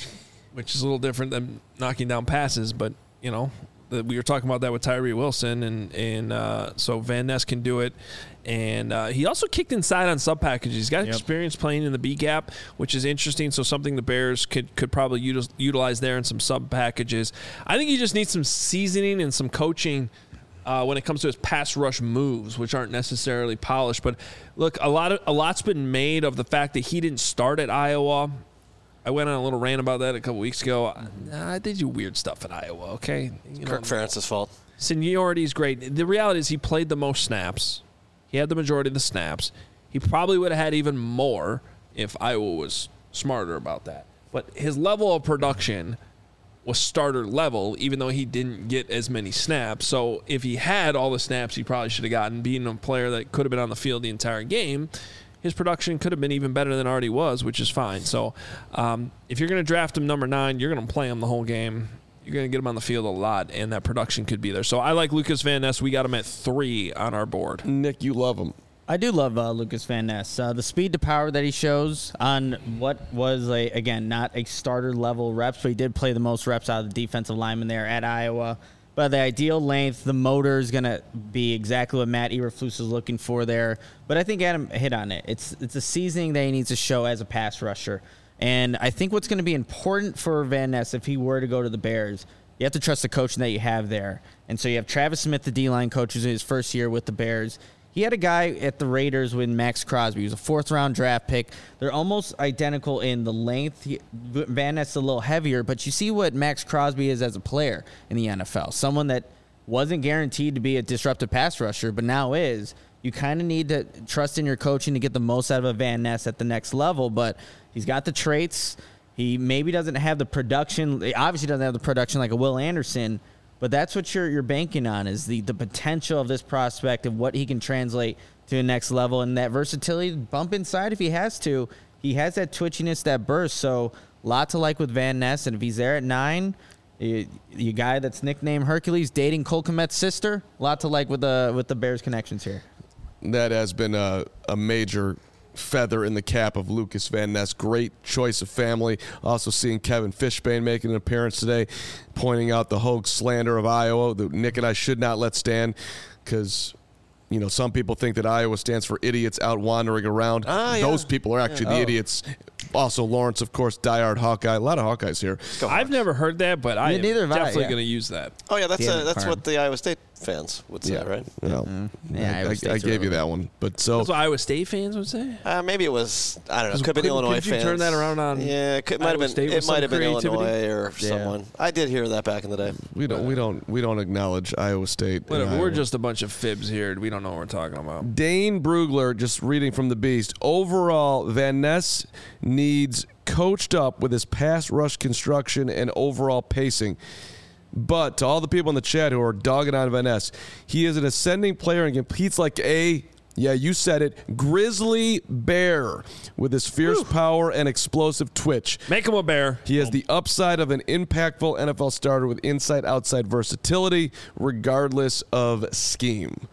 which is a little different than knocking down passes. But, you know, the, we were talking about that with Tyree Wilson, and, and uh, so Van Ness can do it. And uh, he also kicked inside on sub packages. He's got Yep. experience playing in the B gap, which is interesting. So something the Bears could could probably util- utilize there in some sub packages. I think he just needs some seasoning and some coaching uh, when it comes to his pass rush moves, which aren't necessarily polished. But look, a lot of a lot's been made of the fact that he didn't start at Iowa. I went on a little rant about that a couple weeks ago. I did do weird stuff at Iowa. Okay, you Kirk Ferentz's fault. Seniority is great. The reality is he played the most snaps. He had the majority of the snaps. He probably would have had even more if Iowa was smarter about that. But his level of production was starter level, even though he didn't get as many snaps. So if he had all the snaps he probably should have gotten, being a player that could have been on the field the entire game, his production could have been even better than it already was, which is fine. So um, if you're going to draft him number nine, you're going to play him the whole game. You're going to get him on the field a lot, and that production could be there. So I like Lucas Van Ness. We got him at three on our board. Nick, you love him. I do love uh, Lucas Van Ness. Uh, the speed to power that he shows on what was, a, again, not a starter level reps, but he did play the most reps out of the defensive lineman there at Iowa. But the ideal length, the motor is going to be exactly what Matt Eberflus is looking for there. But I think Adam hit on it. It's, it's a seasoning that he needs to show as a pass rusher. And I think what's going to be important for Van Ness if he were to go to the Bears, you have to trust the coaching that you have there. And so you have Travis Smith, the D-line coach, who's in his first year with the Bears. He had a guy at the Raiders with Max Crosby. He was a fourth-round draft pick. They're almost identical in the length. He, Van Ness is a little heavier, but you see what Max Crosby is as a player in the N F L. Someone that wasn't guaranteed to be a disruptive pass rusher, but now is. You kind of need to trust in your coaching to get the most out of a Van Ness at the next level, but he's got the traits. He maybe doesn't have the production. He obviously doesn't have the production like a Will Anderson, But that's what you're you're banking on is the, the potential of this prospect and what he can translate to the next level and that versatility, bump inside if he has to. He has that twitchiness, that burst. So lot to like with Van Ness. And if he's there at nine, you, you guy that's nicknamed Hercules dating Cole Kmet's sister, lot to like with the with the Bears connections here. That has been a, a major feather in the cap of Lucas Van Ness. Great choice of family. Also seeing Kevin Fishbane making an appearance today, pointing out the Hogue slander of Iowa that Nick and I should not let stand because, you know, some people think that Iowa stands for idiots out wandering around. Ah, yeah. Those people are actually Yeah. the Oh. idiots. Also, Lawrence, of course, diehard Hawkeye. A lot of Hawkeyes here. I've never heard that, but I am neither have I, definitely yeah. going to use that. Oh yeah, that's Damn uh, it, that's Carm. what the Iowa State fans would say, right? Well, Yeah, I, Iowa I, State's I gave you irrelevant. that one. But so That's what Iowa State fans would say. Uh, maybe it was I don't know. Could have been Could- Illinois could you fans. turn that around on Yeah, it could, might have Iowa been. State with It might have some been creativity? Illinois or Yeah. someone. I did hear that back in the day. we don't we don't we don't acknowledge Iowa State. and Whatever. We're Iowa. just a bunch of fibs here. We don't know what we're talking about. Dane Brugler, just reading from the Beast. Overall, Van Ness needs coached up with his pass rush construction and overall pacing. But to all the people in the chat who are dogging on Van Ness, he is an ascending player and competes like a, yeah, you said it, grizzly bear with his fierce power and explosive twitch. Make him a bear. He has the upside of an impactful N F L starter with inside-outside versatility, regardless of scheme.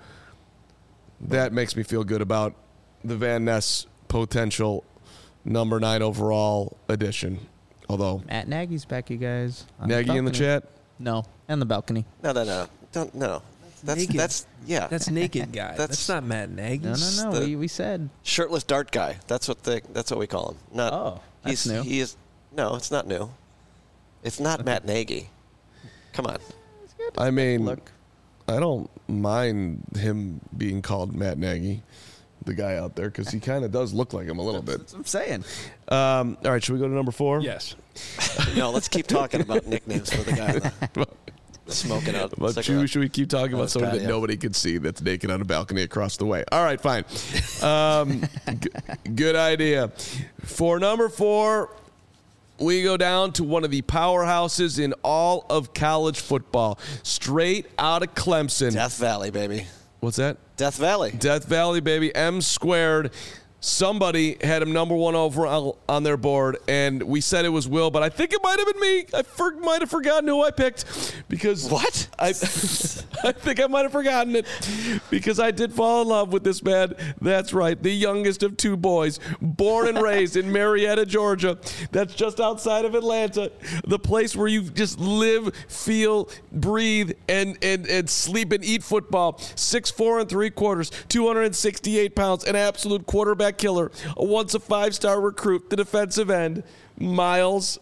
That makes me feel good about the Van Ness potential number nine overall addition. Although, Matt Nagy's back, you guys. On Nagy in the balcony. chat, No, on the balcony. No, no, no, don't no. That's naked. that's yeah. That's naked guy. That's- That's, not Matt Nagy. No, no, no. the- We, we said. shirtless dart guy. That's what the that's what we call him. Not. Oh, that's he's, new. He is. No, it's not new. It's not Matt Nagy. Come on. I mean, Look. I don't mind him being called Matt Nagy, the guy out there, because he kind of does look like him a little bit. That's what I'm saying. Um, all right, should we go to number four? Yes. No, let's keep talking about nicknames for the guy. Smoking out. But cigarette. should, should we keep talking Oh, about it's someone bad, that yeah. nobody could see that's naked on a balcony across the way? All right, fine. Um, g- good idea. For number four, we go down to one of the powerhouses in all of college football, straight out of Clemson. Death Valley, baby. What's that? Death Valley. Death Valley, baby. M squared. Somebody had him number one overall on their board, and we said it was Will, but I think it might have been me. I for, might have forgotten who I picked because What? I, I think I might have forgotten it because I did fall in love with this man. That's right, the youngest of two boys, born and raised in Marietta, Georgia. That's just outside of Atlanta, the place where you just live, feel, breathe, and and and sleep and eat football. Six four and three quarters, two hundred sixty-eight pounds, an absolute quarterback killer, a once a five-star recruit, the defensive end, Miles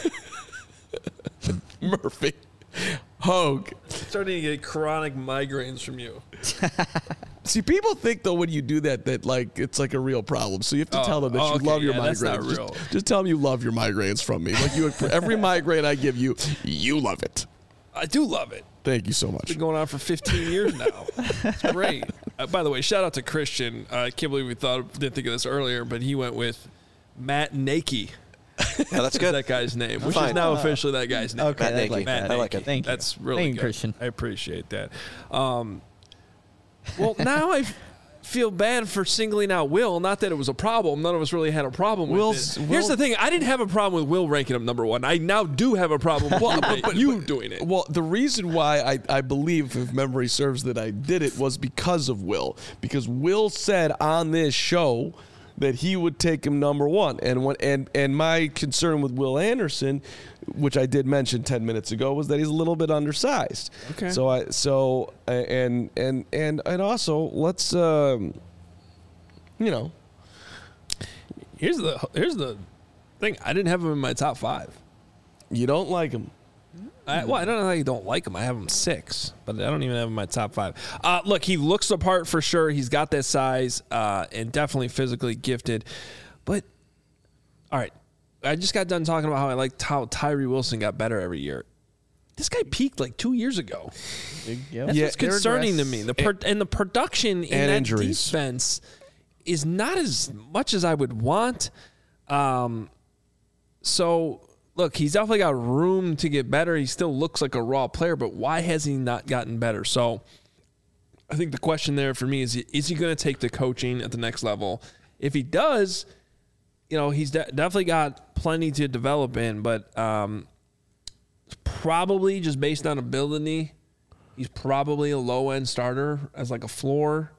Murphy Hogue. Starting to get chronic migraines from you. See, people think though when you do that that like it's like a real problem. So you have to Oh, tell them that oh, you okay, love your yeah, that's migraines. not Just- real. Just, tell them you love your migraines from me. Like you, for every migraine I give you, you love it. I do love it. Thank you so much. Been going on for fifteen years now. It's great. Uh, by the way, shout out to Christian. Uh, I can't believe we thought didn't think of this earlier, but he went with Matt Nakey. Yeah, that's good. That guy's name, which Fine. is now officially that guy's name. Okay, Matt I Nagy. like Matt that. I like Nakey. it. Thank you. That's really Thank you, good. Christian. I appreciate that. Um, well, now I feel bad for singling out Will. Not that it was a problem. None of us really had a problem with Will's- it. Here's Will- the thing. I didn't have a problem with Will ranking him number one. I now do have a problem with Well, you, but- you but- doing it. Well, the reason why I, I believe, if memory serves, that I did it was because of Will. Because Will said on this show that he would take him number one. And when, and and my concern with Will Anderson, which I did mention ten minutes ago, was that he's a little bit undersized. Okay. So I so and and and and also let's um, you know. Here's the here's the thing. I didn't have him in my top five. You don't like him. I, well, I don't know how you don't like him. I have him six, but I don't even have him in my top five. Uh, look, he looks the part for sure. He's got that size uh, and definitely physically gifted. But, all right, I just got done talking about how I liked how Tyree Wilson got better every year. This guy peaked like two years ago. Yep. That's Yeah, what's concerning to me. The per, and the production in and that injuries. defense is not as much as I would want. Um, so look, he's definitely got room to get better. He still looks like a raw player, but why has he not gotten better? So I think the question there for me is, is he going to take the coaching at the next level? If he does, you know, he's de- definitely got plenty to develop in, but um, probably just based on ability, he's probably a low-end starter as like a floor.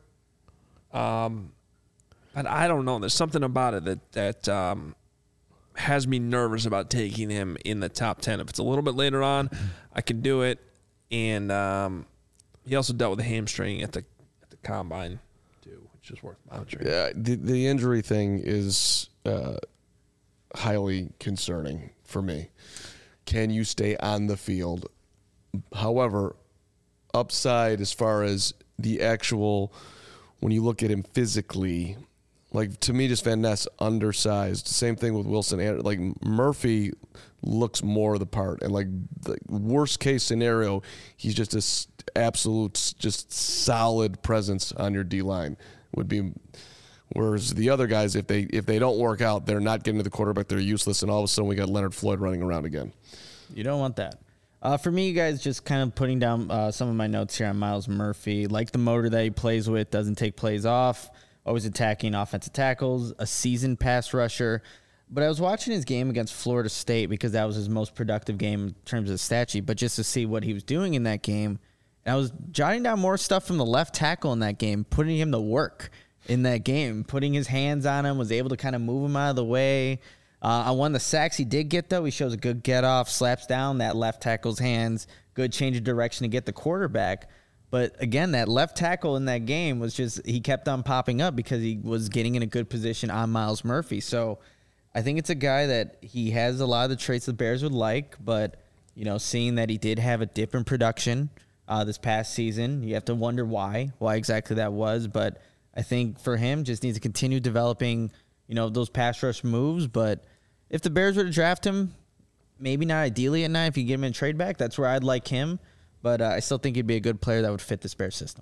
Um, but I don't know. There's something about it that, that um, has me nervous about taking him in the top ten. If it's a little bit later on, I can do it. And um, he also dealt with a hamstring at the at the combine too, which is worth monitoring. Yeah, the, the injury thing is uh, highly concerning for me. Can you stay on the field? However, upside as far as the actual, when you look at him physically, like to me, just Van Ness undersized. Same thing with Wilson. Like Murphy looks more the part, and like the worst case scenario, he's just an absolute, just solid presence on your D line would be. Whereas the other guys, if they if they don't work out, they're not getting to the quarterback. They're useless, and all of a sudden we got Leonard Floyd running around again. You don't want that. Uh, for me, you guys, just kind of putting down uh, some of my notes here on Myles Murphy. Like the motor that he plays with, doesn't take plays off, always attacking offensive tackles, a seasoned pass rusher. But I was watching his game against Florida State because that was his most productive game in terms of the stat sheet, but just to see what he was doing in that game. And I was jotting down more stuff from the left tackle in that game, putting him to work in that game, putting his hands on him, was able to kind of move him out of the way. Uh, on one of the sacks he did get, though, he shows a good get-off, slaps down that left tackle's hands, good change of direction to get the quarterback. But, again, that left tackle in that game was just – he kept on popping up because he was getting in a good position on Myles Murphy. So I think it's a guy that he has a lot of the traits the Bears would like, but, you know, seeing that he did have a dip in production uh, this past season, you have to wonder why, why exactly that was. But I think for him, just needs to continue developing – you know, those pass rush moves. But if the Bears were to draft him, maybe not ideally at nine, if you get him in trade back, that's where I'd like him. But uh, I still think he'd be a good player that would fit this Bears system.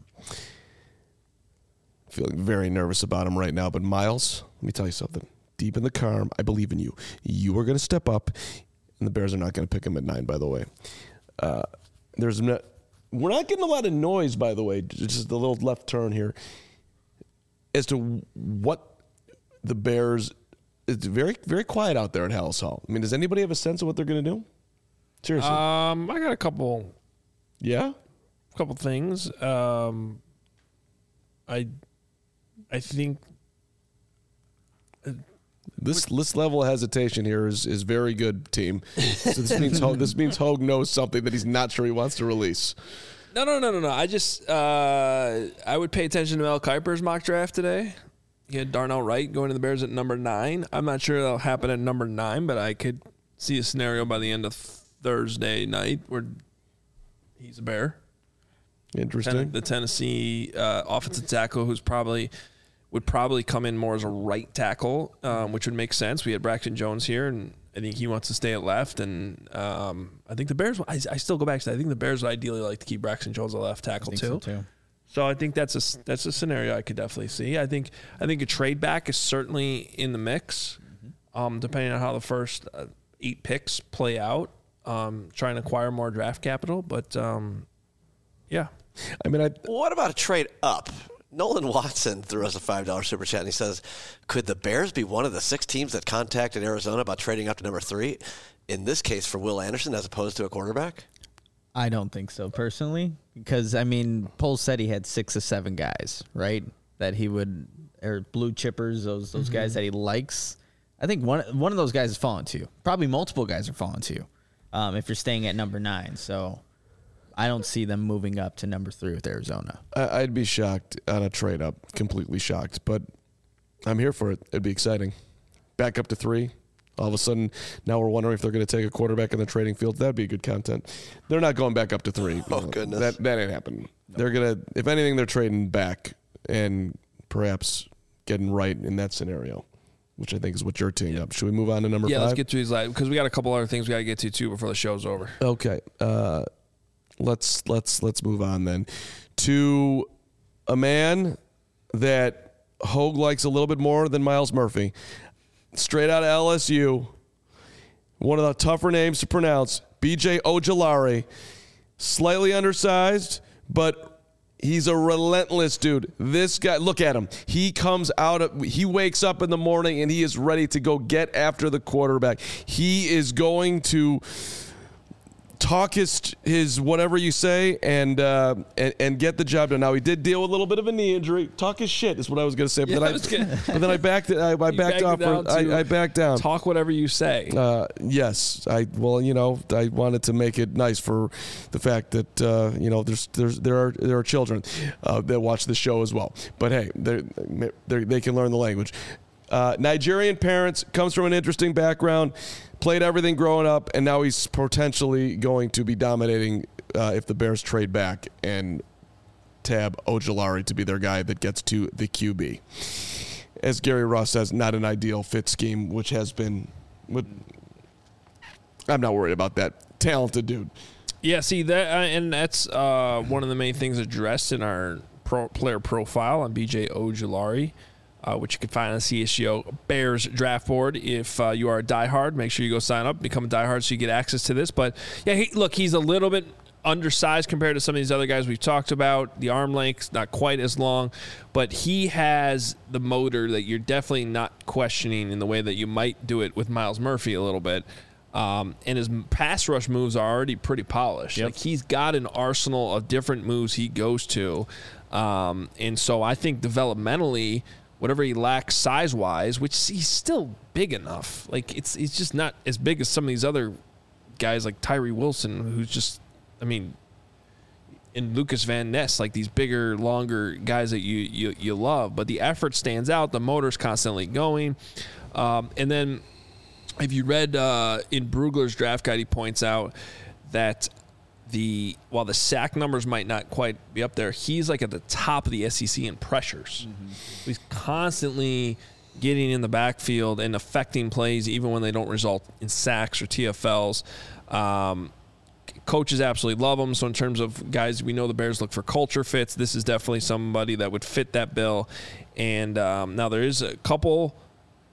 Feeling very nervous about him right now. But Myles, let me tell you something. Deep in the calm, I believe in you. You are going to step up, and the Bears are not going to pick him at nine, by the way. Uh, there's no, we're not getting a lot of noise, by the way, just a little left turn here, as to what the Bears, it's very, very quiet out there at Halas Hall. I mean, does anybody have a sense of what they're going to do? Seriously. Um, I got a couple. Yeah? A couple things. Um, I, I think this this level of hesitation here is, is very good, team. So this means Hogue, this means Hogue knows something that he's not sure he wants to release. No, no, no, no, no. I just uh, I would pay attention to Mel Kiper's mock draft today. He had Darnell Wright going to the Bears at number nine. I'm not sure that'll happen at number nine, but I could see a scenario by the end of Thursday night where he's a Bear. Interesting. Ten, the Tennessee uh, offensive tackle, who's probably would probably come in more as a right tackle, um, which would make sense. We had Braxton Jones here, and I think he wants to stay at left. And um, I think the Bears. I, I still go back to that. I think the Bears would ideally like to keep Braxton Jones at left tackle too. So too. So I think that's a that's a scenario I could definitely see. I think I think a trade back is certainly in the mix, mm-hmm. um, depending on how the first uh, eight picks play out. Um, trying to acquire more draft capital, but um, yeah. I mean, I, what about a trade up? Nolan Watson threw us a five dollar super chat, and he says, could the Bears be one of the six teams that contacted Arizona about trading up to number three, in this case for Will Anderson as opposed to a quarterback? I don't think so, personally, because, I mean, Poles said he had six or seven guys, right, that he would, or blue chippers, those those mm-hmm. guys that he likes. I think one one of those guys is falling to you. Probably multiple guys are falling to you um, if you're staying at number nine. So I don't see them moving up to number three with Arizona. I'd be shocked on a trade up, completely shocked, but I'm here for it. It'd be exciting. Back up to three. All of a sudden, now we're wondering if they're going to take a quarterback in the trading field. That'd be good content. They're not going back up to three. Oh, goodness. That, that ain't happening. No. They're going to, if anything, they're trading back and perhaps getting right in that scenario, which I think is what you're teeing up. Should we move on to number yeah, five? Yeah, let's get to these live because we got a couple other things we got to get to, too, before the show's over. Okay. Uh, let's let's let's move on then to a man that Hogue likes a little bit more than Myles Murphy. Straight out of L S U, one of the tougher names to pronounce, B J Ojulari. Slightly undersized, but he's a relentless dude. This guy, look at him. He comes out, of, he wakes up in the morning and he is ready to go get after the quarterback. He is going to talk his his whatever you say and uh, and and get the job done. Now he did deal with a little bit of a knee injury. Talk his shit is what I was going to say, but, Yeah, then I I, was gonna- but then I backed it. I, I backed backed off. it down For, to I, I backed down. Talk whatever you say. Uh, yes, I well, you know, I wanted to make it nice for the fact that uh, you know there's there's there are there are children uh, that watch the show as well. But hey, they they can learn the language. Uh, Nigerian parents, comes from an interesting background, played everything growing up, and now he's potentially going to be dominating uh, if the Bears trade back and tab Ojulari to be their guy that gets to the Q B. As Gary Ross says, not an ideal fit scheme, which has been. What, I'm not worried about that. Talented dude. Yeah, see that, uh, and that's uh, one of the main things addressed in our pro player profile on B J Ojulari, uh, which you can find on the C H G O Bears draft board. If uh, you are a diehard, make sure you go sign up, become a diehard, so you get access to this. But yeah, he, look, he's a little bit undersized compared to some of these other guys we've talked about. The arm length's not quite as long, but he has the motor that you're definitely not questioning in the way that you might do it with Myles Murphy a little bit. Um, and his pass rush moves are already pretty polished. Yep. Like he's got an arsenal of different moves he goes to. Um, and so I think developmentally, whatever he lacks size-wise, which he's still big enough. Like it's it's just not as big as some of these other guys like Tyree Wilson, who's just, I mean, and Lucas Van Ness, like these bigger, longer guys that you you, you love. But the effort stands out. The motor's constantly going. Um, and then if you read uh, in Brugler's draft guide, he points out that the while the sack numbers might not quite be up there, he's like at the top of the S E C in pressures. Mm-hmm. He's constantly getting in the backfield and affecting plays even when they don't result in sacks or T F Ls. Um, coaches absolutely love him. So in terms of guys, we know the Bears look for culture fits. This is definitely somebody that would fit that bill. And um, now there is a couple –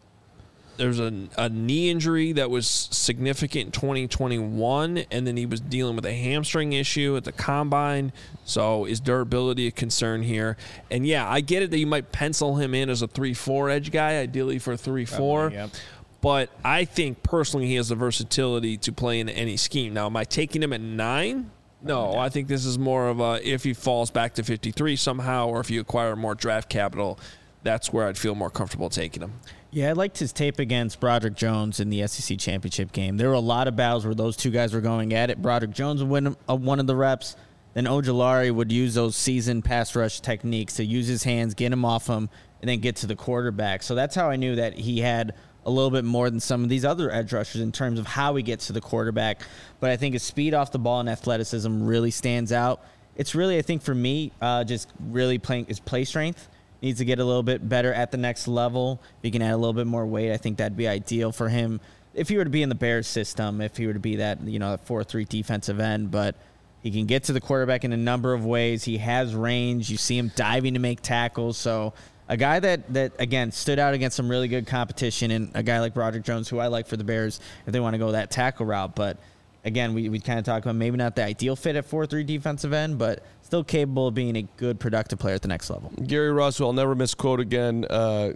There's a, a knee injury that was significant in twenty twenty-one, and then he was dealing with a hamstring issue at the combine. So is durability a concern here? And, yeah, I get it that you might pencil him in as a three four edge guy, ideally for three four. Yep. But I think personally he has the versatility to play in any scheme. Now, am I taking him at nine? No, I think this is more of a if he falls back to fifty-three somehow or if you acquire more draft capital, that's where I'd feel more comfortable taking him. Yeah, I liked his tape against Broderick Jones in the S E C championship game. There were a lot of battles where those two guys were going at it. Broderick Jones would win uh, one of the reps. Then Ojulari would use those seasoned pass rush techniques to use his hands, get him off him, and then get to the quarterback. So that's how I knew that he had a little bit more than some of these other edge rushers in terms of how he gets to the quarterback. But I think his speed off the ball and athleticism really stands out. It's really, I think, for me, uh, just really playing his play strength. Needs to get a little bit better at the next level. If he can add a little bit more weight, I think that'd be ideal for him. If he were to be in the Bears system, if he were to be that, you know, four three defensive end, but he can get to the quarterback in a number of ways. He has range. You see him diving to make tackles. So a guy that, that again, stood out against some really good competition, and a guy like Broderick Jones, who I like for the Bears if they want to go that tackle route. But again, we, we kind of talked about maybe not the ideal fit at four three defensive end, but still capable of being a good, productive player at the next level. Gary Ross, who I'll never misquote again, uh,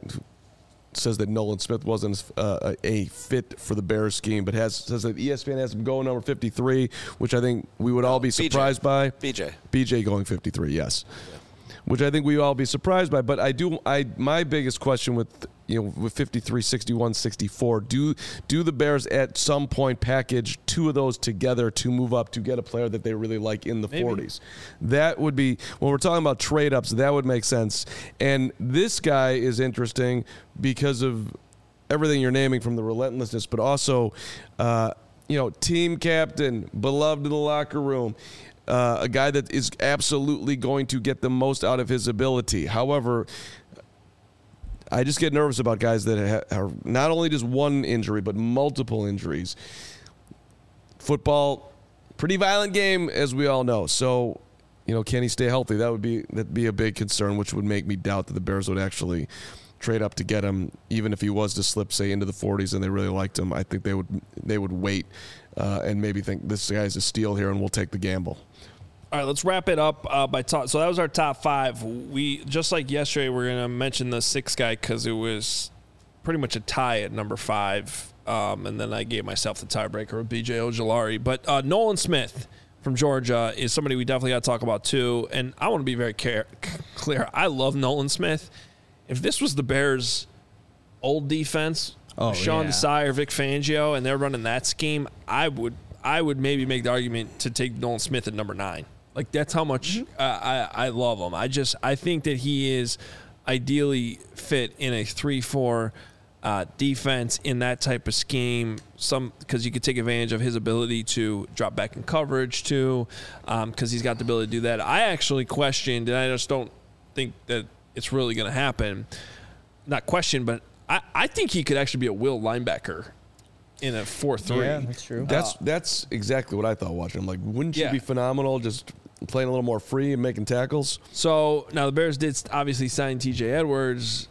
says that Nolan Smith wasn't uh, a fit for the Bears scheme, but has says that E S P N has him going number fifty-three, which I think we would all be surprised by. B J. B J going fifty-three, yes. Yeah. Which I think we all be surprised by. But I do. I my biggest question with you know with fifty-three, sixty-one, sixty-four, do do the Bears at some point package two of those together to move up to get a player that they really like in the Maybe. forties? That would be when we're talking about trade ups. That would make sense. And this guy is interesting because of everything you're naming, from the relentlessness, but also uh, you know team captain, beloved in the locker room. Uh, a guy that is absolutely going to get the most out of his ability. However, I just get nervous about guys that ha- are not only just one injury, but multiple injuries. Football, pretty violent game, as we all know. So, you know, can he stay healthy? That would be that'd be a big concern, which would make me doubt that the Bears would actually trade up to get him, even if he was to slip, say, into the forties and they really liked him. I think they would they would wait uh, and maybe think this guy's a steal here and we'll take the gamble. All right, let's wrap it up uh, by top. So that was our top five. We just like yesterday, we're going to mention the sixth guy because it was pretty much a tie at number five. Um, and then I gave myself the tiebreaker with B J Ojulari. But uh, Nolan Smith from Georgia is somebody we definitely got to talk about too. And I want to be very care- clear. I love Nolan Smith. If this was the Bears' old defense, oh, Sean yeah. Desai or Vic Fangio, and they're running that scheme, I would I would maybe make the argument to take Nolan Smith at number nine. Like, that's how much mm-hmm. uh, I, I love him. I just I think that he is ideally fit in a three four uh, defense in that type of scheme. Some because you could take advantage of his ability to drop back in coverage too, because um, he's got the ability to do that. I actually questioned, and I just don't think that it's really going to happen. Not question, but I, I think he could actually be a will linebacker in a four three. Yeah, that's true. That's uh, that's exactly what I thought watching him. Like, wouldn't you yeah. be phenomenal just playing a little more free and making tackles? So now the Bears did obviously sign T J Edwards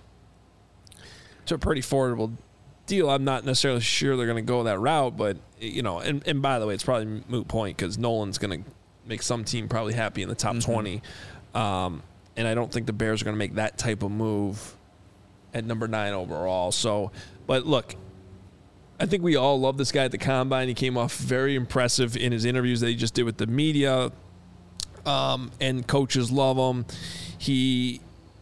to a pretty affordable deal. I'm not necessarily sure they're going to go that route, but, you know, and, and by the way, it's probably a moot point because Nolan's going to make some team probably happy in the top mm-hmm. twenty. Um, and I don't think the Bears are going to make that type of move at number nine overall. So, but look, I think we all love this guy at the Combine. He came off very impressive in his interviews that he just did with the media. Um, and coaches love him. He,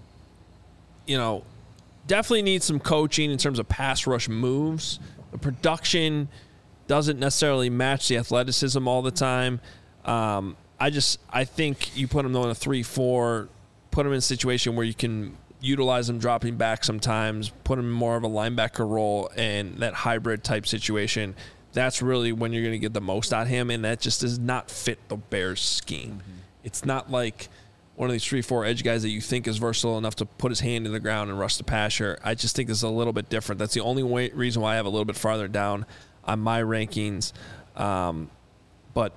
you know, definitely needs some coaching in terms of pass rush moves. The production doesn't necessarily match the athleticism all the time. Um, I just, I think you put him on a three four, put him in a situation where you can utilize him dropping back sometimes, put him in more of a linebacker role and that hybrid type situation. That's really when you're going to get the most out of him, and that just does not fit the Bears scheme. Mm-hmm. It's not like one of these three four edge guys that you think is versatile enough to put his hand in the ground and rush the passer. I just think this is a little bit different. That's the only way, reason why I have a little bit farther down on my rankings. Um, but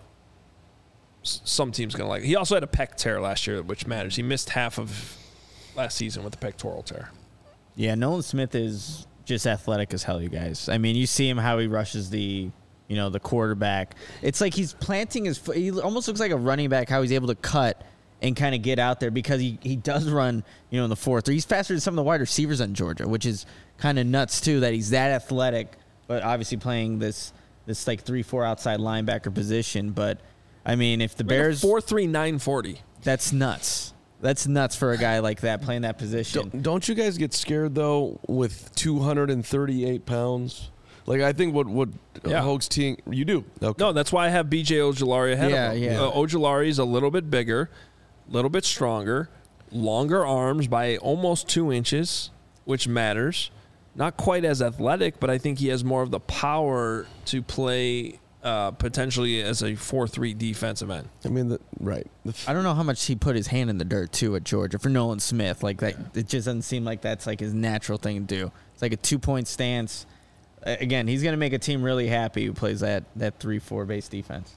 s- some teams going to like it. He also had a pec tear last year, which matters. He missed half of last season with a pectoral tear. Yeah, Nolan Smith is just athletic as hell, you guys. I mean, you see him how he rushes the, you know, the quarterback. It's like he's planting his foot. He almost looks like a running back, how he's able to cut and kind of get out there because he, he does run, you know, in the four three. He's faster than some of the wide receivers in Georgia, which is kind of nuts, too, that he's that athletic, but obviously playing this, this like three four outside linebacker position. But, I mean, if the like Bears... four three, nine forty. That's nuts. That's nuts for a guy like that playing that position. Don't, don't you guys get scared, though, with two hundred thirty-eight pounds? Like, I think what, what yeah. Hoge's team... You do. Okay. No, that's why I have B J Ojulari ahead yeah, of him. Yeah. Uh, Ojulari is a little bit bigger, a little bit stronger, longer arms by almost two inches, which matters. Not quite as athletic, but I think he has more of the power to play uh, potentially as a four three defensive end. I mean, the, right. The f- I don't know how much he put his hand in the dirt, too, at Georgia for Nolan Smith. Like that, it just doesn't seem like that's like his natural thing to do. It's like a two-point stance. Again, he's going to make a team really happy who plays that that three four base defense.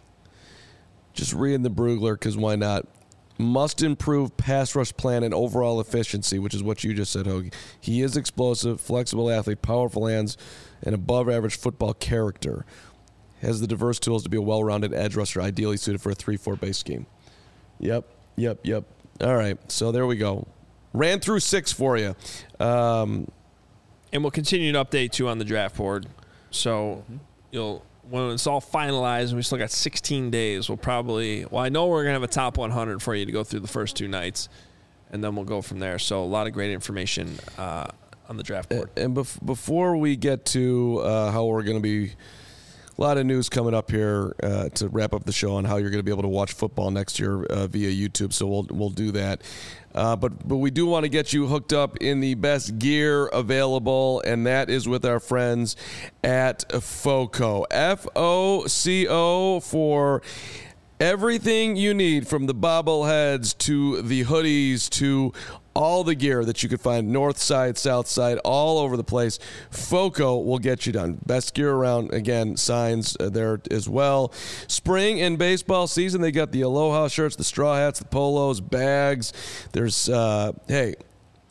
Just reading the Brugler, because why not? Must improve pass rush plan and overall efficiency, which is what you just said, Hoagie. He is explosive, flexible athlete, powerful hands, and above-average football character. Has the diverse tools to be a well-rounded edge rusher, ideally suited for a three four base scheme. Yep, yep, yep. All right, so there we go. Ran through six for you. Um, And we'll continue to update you on the draft board. So mm-hmm. you'll when it's all finalized, we still got sixteen days. We'll probably well, I know we're gonna have a top one hundred for you to go through the first two nights, and then we'll go from there. So a lot of great information uh, on the draft board. And bef- before we get to uh, how we're gonna be, a lot of news coming up here uh, to wrap up the show on how you're gonna be able to watch football next year uh, via YouTube. So we'll we'll do that. Uh, but but we do want to get you hooked up in the best gear available, and that is with our friends at FOCO. F O C O for everything you need, from the bobbleheads to the hoodies to all the gear that you could find north side, south side, all over the place. FOCO will get you done. Best gear around. Again, signs there as well. Spring and baseball season, they got the Aloha shirts, the straw hats, the polos, bags. There's, uh, hey,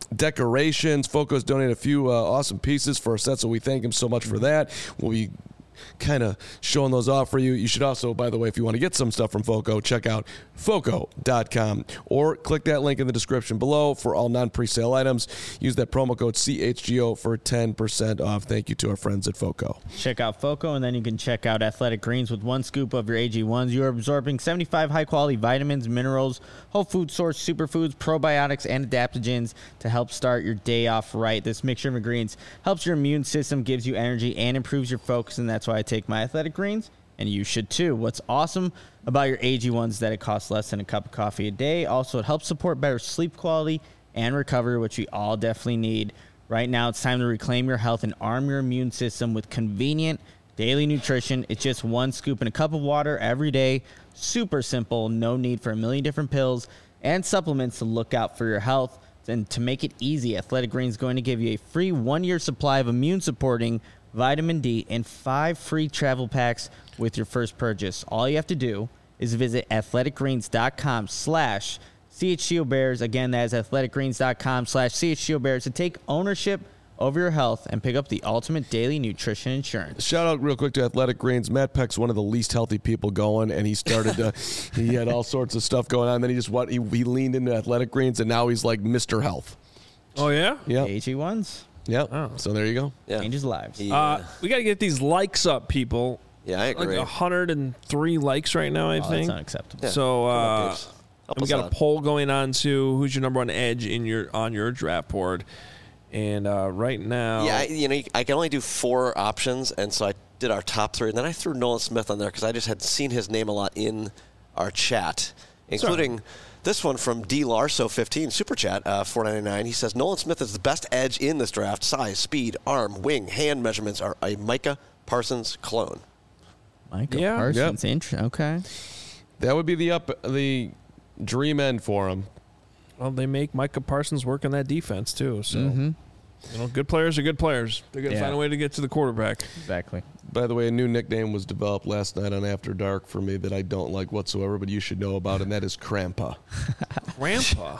decorations. Foco's donated a few uh, awesome pieces for our set, so we thank him so much for that. We'll be kind of showing those off for you. You should also, by the way, if you want to get some stuff from Foco, check out foco dot com or click that link in the description below for all non-presale items. Use that promo code C H G O for ten percent off. Thank you to our friends at Foco. Check out Foco, and then you can check out Athletic Greens. With one scoop of your A G ones, you are absorbing seventy-five high-quality vitamins, minerals, whole food source superfoods, probiotics, and adaptogens to help start your day off right. This mixture of ingredients helps your immune system, gives you energy, and improves your focus, and that's why I take my Athletic Greens, and you should too. What's awesome about your A G ones is that it costs less than a cup of coffee a day. Also, it helps support better sleep quality and recovery, which we all definitely need. Right now, it's time to reclaim your health and arm your immune system with convenient daily nutrition. It's just one scoop in a cup of water every day. Super simple. No need for a million different pills and supplements to look out for your health. And to make it easy, Athletic Greens is going to give you a free one-year supply of immune-supporting vitamin D and five free travel packs with your first purchase. All you have to do is visit athletic greens dot com slash C H G O Bears. Again, that is athletic greens dot com slash C H G O Bears to take ownership over your health and pick up the ultimate daily nutrition insurance. Shout out real quick to Athletic Greens. Matt Peck's one of the least healthy people going, and he started to, he had all sorts of stuff going on. Then he just what he, he leaned into Athletic Greens, and now he's like Mister Health. Oh, yeah? Yeah. A G ones. Yeah. Oh. So there you go. Yeah. Changes lives. Yeah. Uh, we got to get these likes up, people. Yeah, I agree. Like one hundred three likes right now, I Oh, think. that's unacceptable. Yeah. So Come on, uh, Daves. Help we us got out. a poll going on to who's your number one edge in your on your draft board, and uh, right now, Yeah, I, you know, I can only do four options, and so I did our top three, and then I threw Nolan Smith on there because I just had seen his name a lot in our chat, including this one from D Larso fifteen super chat uh, four ninety-nine. He says Nolan Smith is the best edge in this draft. Size, speed, arm, wing, hand measurements are a Micah Parsons clone. Michael Yeah. Parsons. Int- okay. That would be the up the dream end for him. well, they make Micah Parsons work on that defense too. So Mm-hmm. you know, good players are good players. They're gonna Yeah. find a way to get to the quarterback. Exactly. By the way, a new nickname was developed last night on After Dark for me that I don't like whatsoever, but you should know about, and that is Crampa. Grandpa.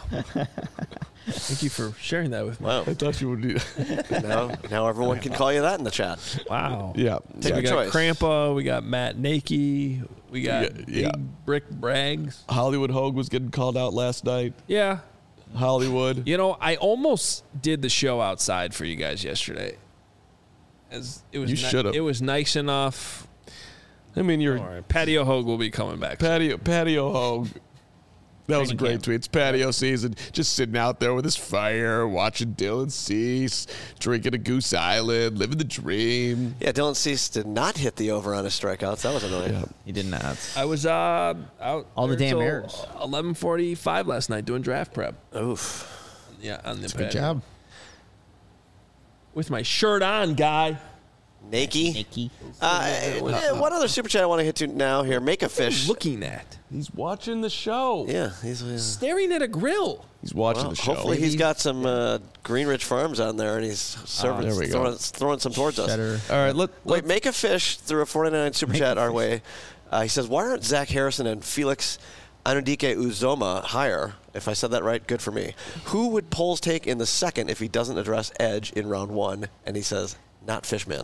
Thank you for sharing that with me. Wow. I thought you would do. now, now everyone can call you that in the chat. Wow. Yeah. Take we your got choice. Crampa, we got Matt Nakey, we got Yeah, yeah. Big Brick Braggs. Hollywood Hogue was getting called out last night. Yeah. Hollywood. You know, I almost did the show outside for you guys yesterday. As it was You ni- should've. It was nice enough. I mean, you're All right. Patio Hogue will be coming back. patio patio Hogue. That was a Training great camp. tweet. It's patio season. Just sitting out there with his fire, watching Dylan Cease, drinking a Goose Island, living the dream. Yeah, Dylan Cease did not hit the over on his strikeouts. That was annoying. Yeah. He did not. I was uh, out All the there damn till errors. eleven forty-five last night doing draft prep. Oof. Yeah, on the Good patio. job. With my shirt on, guy. Nakey. Nikki. Uh, eh, one other super chat I want to hit to now here. Make a fish. Looking at. He's watching the show. Yeah, he's. Uh, Staring at a grill. He's watching well, the show. hopefully he's got some uh, Greenridge Farms on there, and he's serving, there we go. throwing, throwing some towards us. Better. All right, let, Wait, let make a fish through a four ninety-nine super chat our way. Uh, he says, why aren't Zach Harrison and Felix Anudike Uzoma higher? If I said that right, good for me. Who would polls take in the second if he doesn't address edge in round one? And he says, not Fishman.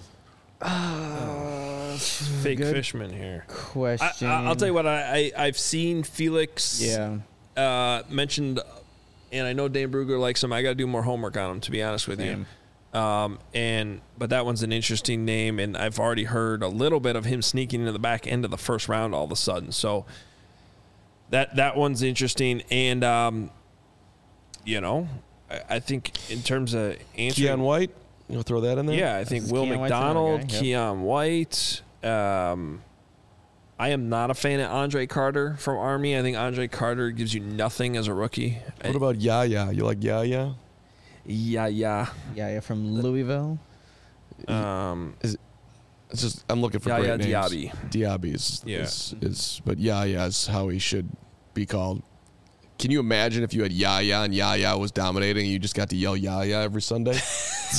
Fake Good fishman here. I, Question. I, I'll tell you what. I, I I've seen Felix. Yeah. Uh, mentioned, and I know Dane Brugler likes him. I got to do more homework on him, to be honest with Same. you. Um, and but that one's an interesting name, and I've already heard a little bit of him sneaking into the back end of the first round all of a sudden. So that that one's interesting, and um, you know, I, I think in terms of answering, Keon White. You'll throw that in there? yeah, I think This is Will Keon White's another McDonald, guy, yep. Keon White. Um, I am not a fan of Andre Carter from Army. I think Andre Carter gives you nothing as a rookie. What about Yaya? You like Yaya? Yeah, yeah. Yeah, yeah, from Louisville. Um, It's just I'm looking for Yaya great names. Diaby. Diaby is, Yeah. is, is but Yaya is how he should be called. Can you imagine if you had Yaya and Yaya was dominating and you just got to yell Yaya every Sunday?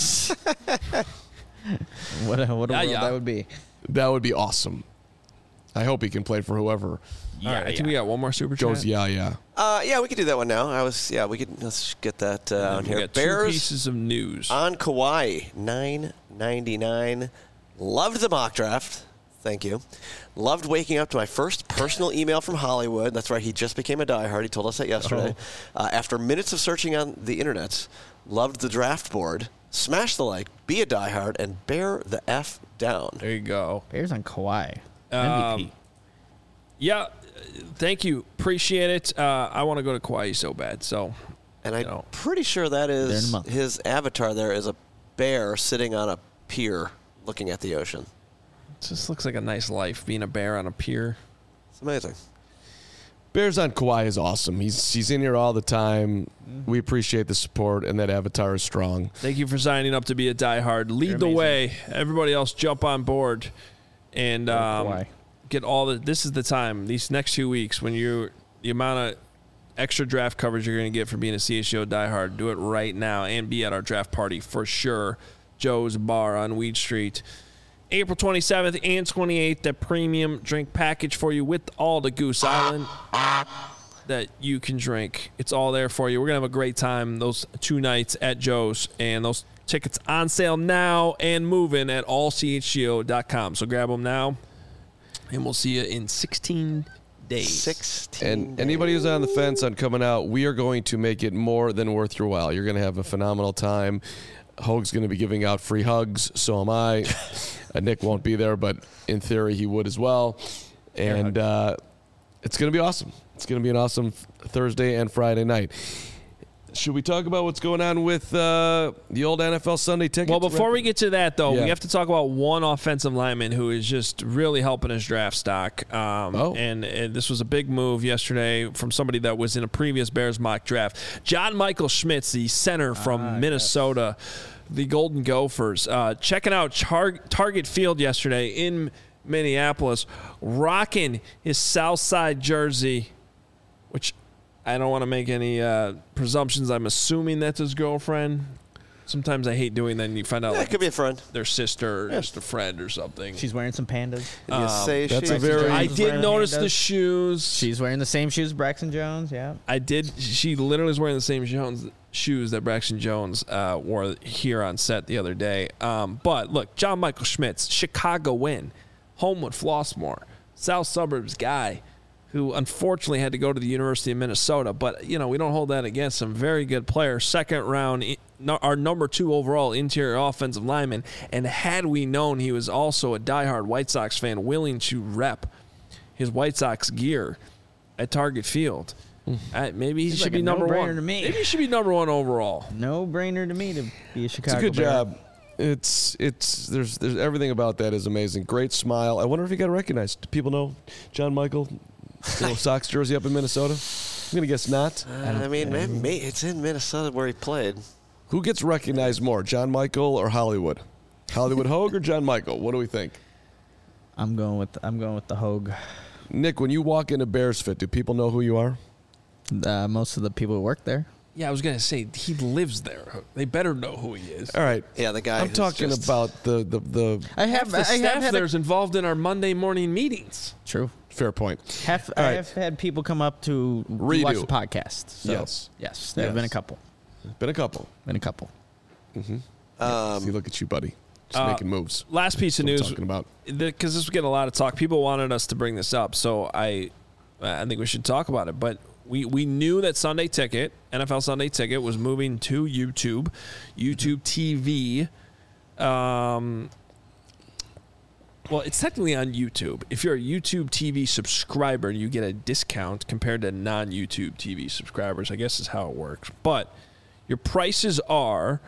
What a, what a Yeah, world yeah. that would be. That would be awesome. I hope he can play for whoever All right, I think we got one more super chat. goes. Yeah, yeah. Uh, yeah, we could do that one now. I was, yeah, we could. Let's get that uh, on We here. got two Bears pieces of news. on Kawhi, nine ninety-nine. Loved the mock draft. Thank you. Loved waking up to my first personal email from Hollywood. That's right, he just became a diehard. He told us that yesterday. Oh. Uh, after minutes of searching on the internet, loved the draft board. Smash the like, be a diehard, and bear the F down. There you go. Bears on Kawhi. Um, M V P. Yeah, uh, thank you. Appreciate it. Uh, I want to go to Kauai so bad. So, And I'm you know. pretty sure that They're in a is month. his avatar there is a bear sitting on a pier looking at the ocean. It just looks like a nice life being a bear on a pier. It's amazing. Bears on Kawhi is awesome. He's he's in here all the time. We appreciate the support, and that avatar is strong. Thank you for signing up to be a diehard. Lead You're the amazing. way. Everybody else jump on board and um, Kawhi. get all the. This is the time. These next two weeks when you the amount of extra draft coverage you're going to get for being a C H G O diehard. Do it right now and be at our draft party for sure. Joe's Bar on Weed Street. April twenty-seventh and twenty-eighth, that premium drink package for you with all the Goose Island that you can drink. It's all there for you. We're going to have a great time those two nights at Joe's, and those tickets on sale now and moving at all c h g o dot com. So grab them now, and we'll see you in sixteen days. sixteen And anybody who's on the fence on coming out, we are going to make it more than worth your while. You're going to have a phenomenal time. Hoag's going to be giving out free hugs. So am I. uh, Nick won't be there, but in theory he would as well. And uh, it's going to be awesome. It's going to be an awesome Thursday and Friday night. Should we talk about what's going on with uh, the old N F L Sunday tickets? Well, before we get to that, though, Yeah. we have to talk about one offensive lineman who is just really helping his draft stock. Um, Oh. and, and this was a big move yesterday from somebody that was in a previous Bears mock draft. John Michael Schmitz, the center from Ah, Minnesota, the Golden Gophers, uh, checking out Char- Target Field yesterday in Minneapolis, rocking his Southside jersey, which I don't want to make any uh, presumptions. I'm assuming that's his girlfriend. Sometimes I hate doing that, and you find out Yeah, like it could be a friend. their sister or just a friend or something. She's wearing some pandas. Did you say that's she? a very- I Jones did wearing notice pandas. the shoes. She's wearing the same shoes Braxton Jones. Yeah. I did. She literally was wearing the same Jones shoes that Braxton Jones uh, wore here on set the other day. Um, but look, John Michael Schmitz, Chicago win, Homewood Flossmoor, South Suburbs guy, who unfortunately had to go to the University of Minnesota. But, you know, we don't hold that against him. Very good player. Second round, no, our number two overall interior offensive lineman. And had we known he was also a diehard White Sox fan willing to rep his White Sox gear at Target Field, uh, maybe he Seems should like be a number no-brainer one. to me. Maybe he should be number one overall. No brainer to me to be a It's Chicago a good Bear. job. It's it's there's there's everything about that is amazing. Great smile. I wonder if he got recognized. Do people know John Michael? Little Sox jersey up in Minnesota? I'm gonna guess not. Uh, I mean, maybe, maybe it's in Minnesota where he played. Who gets recognized more, John Michael or Hollywood? Hollywood Hoag or John Michael? What do we think? I'm going with I'm going with the Hogue. Nick, when you walk into Bears Fit, do people know who you are? Uh, most of the people who work there. Yeah, I was going to say, he lives there. They better know who he is. All right. Yeah, the guy. I'm who's talking just- about the, the, the I Half have the I staff have had there a, is involved in our Monday morning meetings. true. fair point. Half, All I right. have had people come up to Redo. watch the podcast. So, Yes. yes, there have been a Yes. couple. Been a couple. Been a couple. Um, See, look at you, buddy. Just uh, making moves. Last piece of That's what I'm news, talking about. because this was getting a lot of talk. People wanted us to bring this up, so I, I think we should talk about it. But we we knew that Sunday Ticket, N F L Sunday Ticket, was moving to YouTube, YouTube T V. Um, well, it's technically on YouTube. If you're a YouTube T V subscriber, you get a discount compared to non-YouTube T V subscribers. I guess is how it works. But your prices are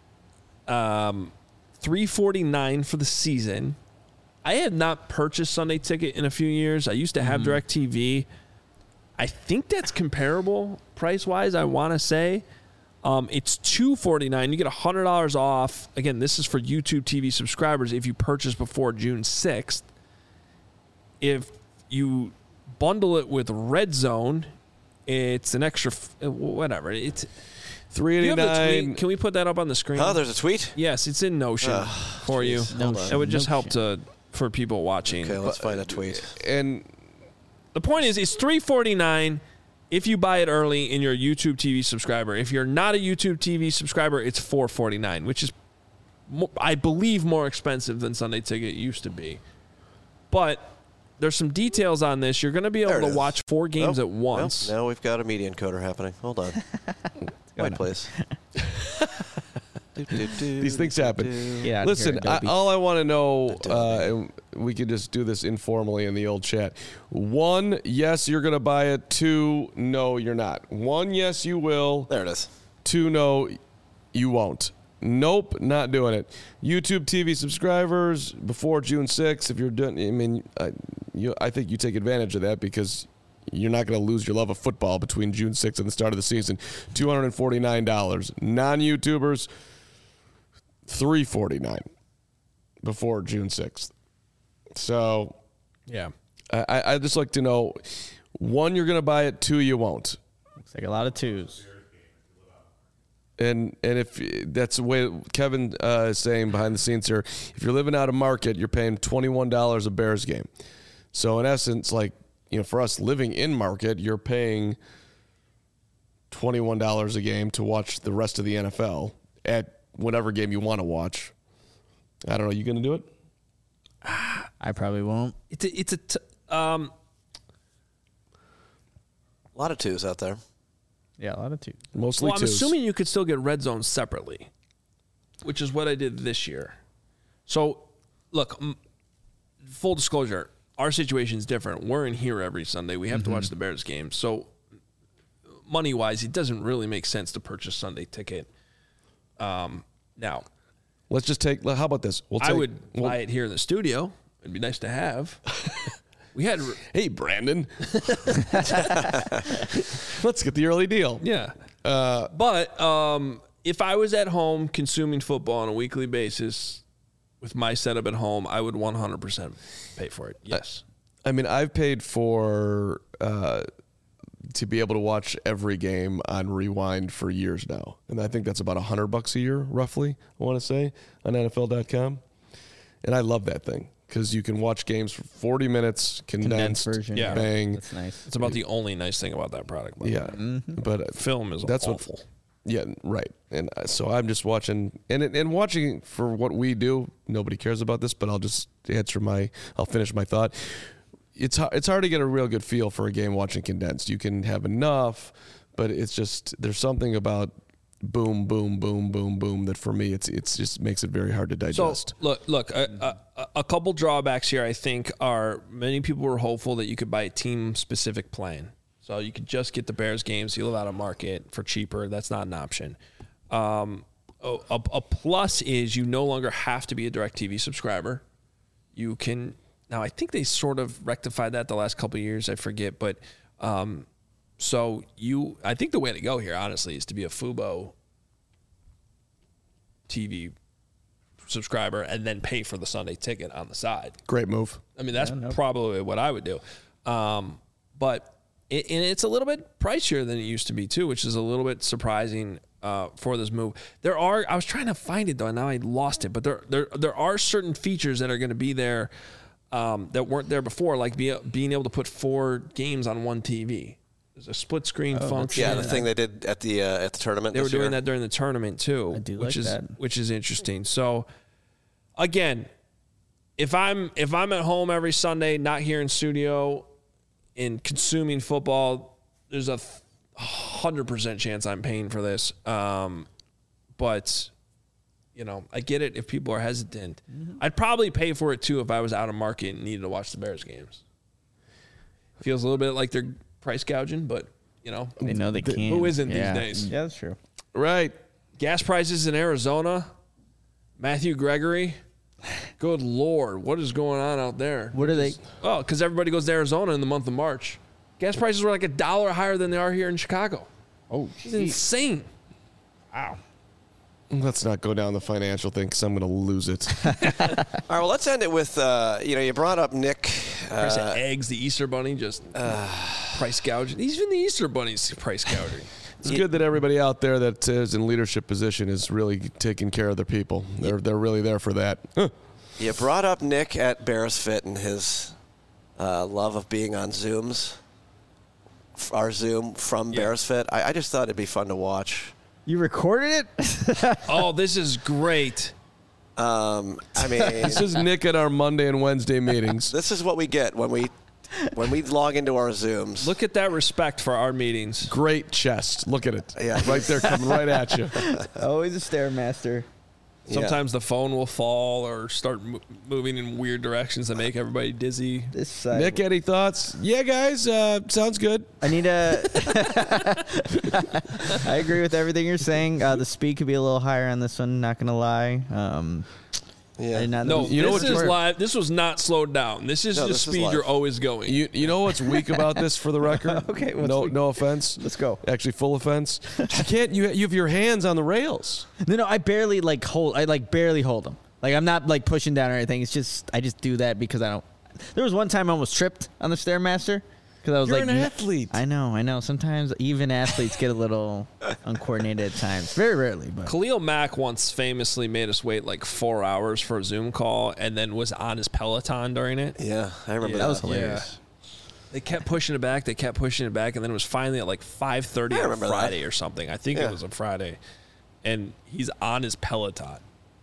um, three forty-nine for the season. I had not purchased Sunday Ticket in a few years. I used to have DirecTV. I think that's comparable price-wise, I want to say. Um, it's two forty-nine. You get one hundred dollars off. Again, this is for YouTube T V subscribers if you purchase before June sixth. If you bundle it with Red Zone, it's an extra, f- whatever. It's three Do you have the eighty-nine. tweet? Can we put that up on the screen? oh, there's a tweet. Yes, it's in Notion Ugh, for you. jeez. No Hold on. shit. It would just help Notion. to for people watching. Okay, let's find a tweet. And The point is, it's three forty-nine if you buy it early and you're a YouTube T V subscriber. If you're not a YouTube T V subscriber, it's four forty-nine, which is, I believe, more expensive than Sunday Ticket used to be. But there's some details on this. You're going to be able to is. watch four games Oh, at once. Well, now we've got a media encoder happening. Hold on. Wait, please. do, do, do, these things happen. Yeah. Listen, I, all I want to know, uh, Adobe. and we could just do this informally in the old chat. One, yes, you're going to buy it. Two, no, you're not. One, yes, you will. There it is. Two, no, you won't. Nope, not doing it. YouTube T V subscribers before June sixth, if you're doing, I mean, I, you, I think you take advantage of that because you're not going to lose your love of football between June sixth and the start of the season. two hundred forty-nine dollars. Non-YouTubers, three hundred forty-nine dollars before June sixth. So, Yeah. I, I just like to know, one, you're going to buy it. Two, you won't. Looks like a lot of twos. And and if that's the way Kevin uh, is saying behind the scenes here, if you're living out of market, you're paying twenty-one dollars a Bears game. So in essence, like, you know, for us living in market, you're paying twenty-one dollars a game to watch the rest of the N F L at whatever game you want to watch. I don't know. You going to do it? I probably won't. It's a, it's a t- um, A lot of twos out there. Yeah, a lot of twos. Mostly well, I'm twos. assuming you could still get Red Zone separately, which is what I did this year. So, look, m- full disclosure, our situation is different. We're in here every Sunday. We have Mm-hmm. to watch the Bears game. So, money-wise, it doesn't really make sense to purchase Sunday Ticket. Um, now, Let's just take. How about this? We'll take, I would we'll- buy it here in the studio. It'd be nice to have. We had, Hey, Brandon. Let's get the early deal. yeah. Uh, but um, if I was at home consuming football on a weekly basis with my setup at home, I would one hundred percent pay for it. Yes. I mean, I've paid for uh, to be able to watch every game on Rewind for years now, and I think that's about a hundred bucks a year, roughly. I want to say on N F L dot com, and I love that thing because you can watch games for forty minutes, condensed, Condensed version. Yeah. bang. That's nice. It's about the only nice thing about that product. by the Yeah, way. but Film is that's awful. what. Yeah, right. And uh, so I'm just watching, and and watching for what we do. Nobody cares about this, but I'll just answer my. I'll finish my thought. It's hard, it's hard to get a real good feel for a game watching condensed. You can have enough, but it's just there's something about boom, boom, boom, boom, boom that for me it's it's just makes it very hard to digest. So look, look, a, a, a couple drawbacks here. I think are many people were hopeful that you could buy a team specific plan, so you could just get the Bears games. You live out of market for cheaper. That's not an option. Um, a, a, a plus is you no longer have to be a DirecTV subscriber. You can now. I think they sort of rectified that the last couple of years. I forget, but um, so you. I think the way to go here, honestly, is to be a Fubo T V subscriber and then pay for the Sunday Ticket on the side. Great move. I mean, that's probably what I would do. Um, but it, and it's a little bit pricier than it used to be too, which is a little bit surprising uh, for this move. There are I was trying to find it though, and now I lost it. But there there there are certain features that are going to be there um, that weren't there before, like be, being able to put four games on one T V. There's a split screen function. Yeah, the thing they did at the uh, at the tournament. They were this doing year. that during the tournament too, I do which like is that. which is interesting. So again, if I'm if I'm at home every Sunday, not here in studio, and consuming football, there's a hundred percent chance I'm paying for this. Um, but you know, I get it if people are hesitant. Mm-hmm. I'd probably pay for it too if I was out of market and needed to watch the Bears games. Feels a little bit like they're price gouging, but you know, They know they can. who isn't these yeah. days? Yeah, that's true. Right. Gas prices in Arizona. Matthew Gregory. Good Lord, what is going on out there? What are they? Oh, because everybody goes to Arizona in the month of March. Gas prices were like a dollar higher than they are here in Chicago. Oh, It's insane. wow. Let's not go down the financial thing because I'm going to lose it. All right, well, let's end it with uh, you know you brought up Nick. Price of Uh, eggs, the Easter Bunny, just price gouging. Even the Easter Bunny's price gouging. It's good that everybody out there that is in leadership position is really taking care of their people. They're they're really there for that. Huh. You brought up Nick at Bears Fit and his uh, love of being on Zooms. Our Zoom from Yeah. Bears Fit. I, I just thought it'd be fun to watch. You recorded it? Oh, this is great. Um, I mean, This is Nick at our Monday and Wednesday meetings. this is what we get when we when we log into our Zooms. Look at that respect for our meetings. Great chest. Look at it. Yeah. Right there coming right at you. Always a Stairmaster. Sometimes the phone will fall or start mo- moving in weird directions that make everybody dizzy. This side. Nick, any thoughts? Yeah, guys, uh, sounds good. I need a. I agree with everything you're saying. Uh, the speed could be a little higher on this one. Not gonna lie. Um, Yeah. I did not No, You know this what is you're- live. This was not slowed down. This is No, the this is speed live. you're always going. You you know what's weak about this for the record? Okay, what's no weak? no offense. Let's go. Actually, full offense. You can't. You you have your hands on the rails. No, no, I barely like hold. I like barely hold them. Like I'm not like pushing down or anything. It's just I just do that because I don't. There was one time I almost tripped on the Stairmaster because I was You're like, an n- athlete. I know, I know. Sometimes even athletes get a little uncoordinated at times. Very rarely, but Khalil Mack once famously made us wait like four hours for a Zoom call and then was on his Peloton during it. Yeah, I remember that that. was hilarious. They kept pushing it back. They kept pushing it back, and then it was finally at like five thirty I on a remember that. Friday or something. I think Yeah. it was a Friday, and he's on his Peloton.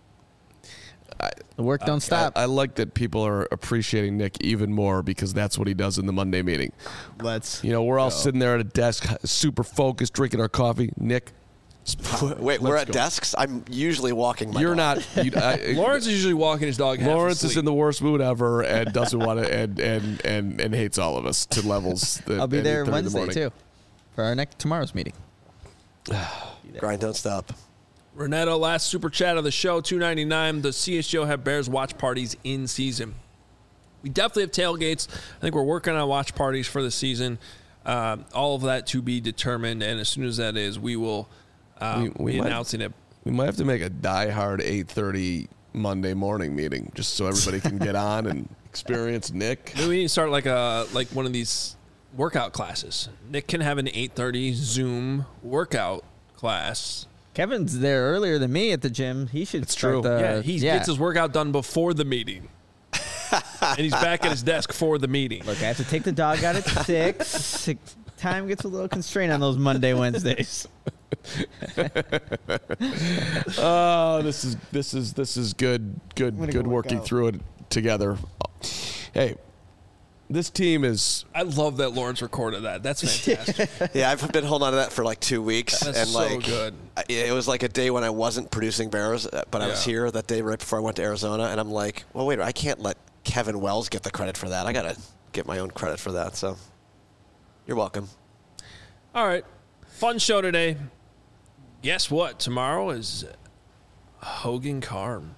the work don't stop. I, I like that people are appreciating Nick even more because that's what he does in the Monday meeting. Let's. You know, we're all sitting there at a desk, super focused, drinking our coffee. Nick, Wait, we're let's at go. desks? I'm usually walking my You're dog. not. You, I, Lawrence is usually walking his dog. half Lawrence is asleep. in the worst mood ever and doesn't want to and, and and and hates all of us to levels. That, I'll be at there eight thirty in the Wednesday morning. too, for our next tomorrow's meeting. Grind don't stop. Renato, last super chat of the show, two ninety-nine. The C H G O have Bears watch parties in season. We definitely have tailgates. I think we're working on watch parties for the season. Um, all of that to be determined, and as soon as that is, we will um, We- we be might- announcing it. We might have to make a diehard eight thirty Monday morning meeting just so everybody can get on and experience Nick. Maybe we need to start like a like one of these workout classes. Nick can have an eight thirty Zoom workout class. Kevin's there earlier than me at the gym. He should It's start true. the. yeah, he gets his workout done before the meeting, and he's back at his desk for the meeting. Look, I have to take the dog out at six. six. Time gets a little constrained on those Monday, Wednesdays. Oh, this is this is this is good good gonna good go work working out. through it together. Hey, this team is I love that Lawrence recorded that. That's fantastic. Yeah, I've been holding on to that for like two weeks, That's and so like good. I- it was like a day when I wasn't producing Bears, uh, but I was Yeah. here that day right before I went to Arizona, and I'm like, well, wait, I can't let Kevin Wells get the credit for that. I gotta get my own credit for that. So, you're welcome. All right, fun show today. Guess what? Tomorrow is Hogan Carm.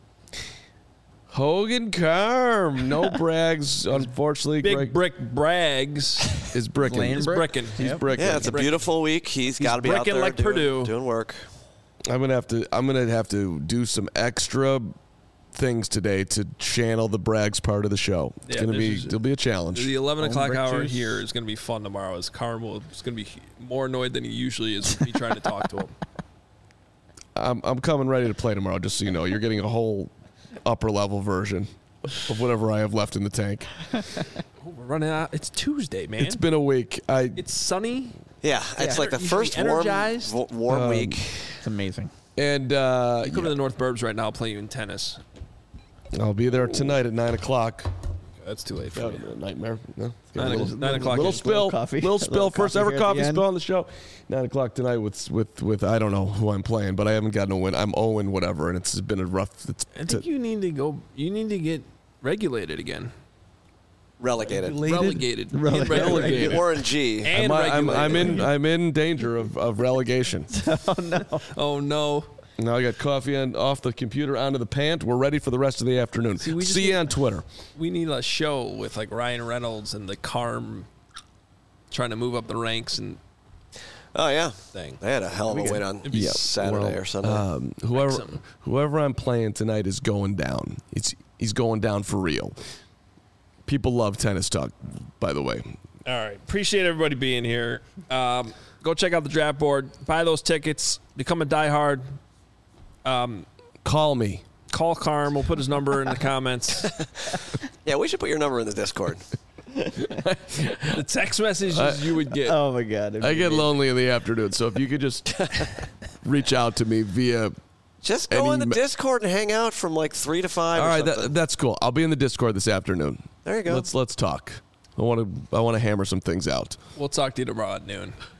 Hogan Carm. No brags, unfortunately. Big Greg Brick Braggs is bricking. Laying is brick. bricking. He's Yep. bricking. Yeah, it's a Brick- beautiful week. He's got to be out bricking there like doing, Purdue. doing work. I'm gonna have to. I'm gonna have to do some extra things today to channel the brags part of the show. It's Yeah, gonna this be. is- It'll be a challenge. The eleven Home o'clock brick hour juice. here is going to be fun tomorrow. As Carm will is going to be more annoyed than he usually is with me trying to talk to him. I'm. I'm coming ready to play tomorrow. Just so you know, you're getting a whole upper level version of whatever I have left in the tank. Oh, we're running out. It's Tuesday, man. It's been a week. I. It's sunny. Yeah, it's like the You should be first warm, energized. w- warm Um, week. It's amazing. And uh, You go to the North Burbs right now. I'll play you in tennis. I'll be there tonight at nine o'clock. That's too late for Uh, me. nightmare. No. Nine little, o'clock- nine o'clock Little is- spill. Little coffee. Little A spill. little First coffee ever here at the coffee end. spill on the show. Nine o'clock tonight with with with I don't know who I'm playing, but I haven't gotten a win. I'm Owen whatever, and it's been a rough. It's, I think you need to go. You need to get regulated again. Relegated. Relegated. Relegated. Get Relegated. Warren G. And I'm, I'm, I'm regulated. in I'm in danger of, of relegation. Oh no. Now I got coffee on off the computer onto the pant. We're ready for the rest of the afternoon. See, we just See you need- on Twitter. We need a show with like Ryan Reynolds and the Carm trying to move up the ranks and Oh yeah, thing. they had a hell of a win on It'd be Yeah, Saturday well, or Sunday. Um, whoever Wrexham. whoever I'm playing tonight is going down. It's he's going down for real. People love tennis talk, by the way. All right. Appreciate everybody being here. Um, go check out the draft board. Buy those tickets. Become a diehard. Um, Call me. Call Carm. We'll put his number in the comments. Yeah, we should put your number in the Discord. The text messages uh, you would get. Oh, my God. I get lonely in the afternoon, so if you could just reach out to me via... Just go in the me- Discord and hang out from like three to five. All or right, that, that's cool. I'll be in the Discord this afternoon. There you go. Let's let's talk. I want to I want to hammer some things out. We'll talk to you tomorrow at noon.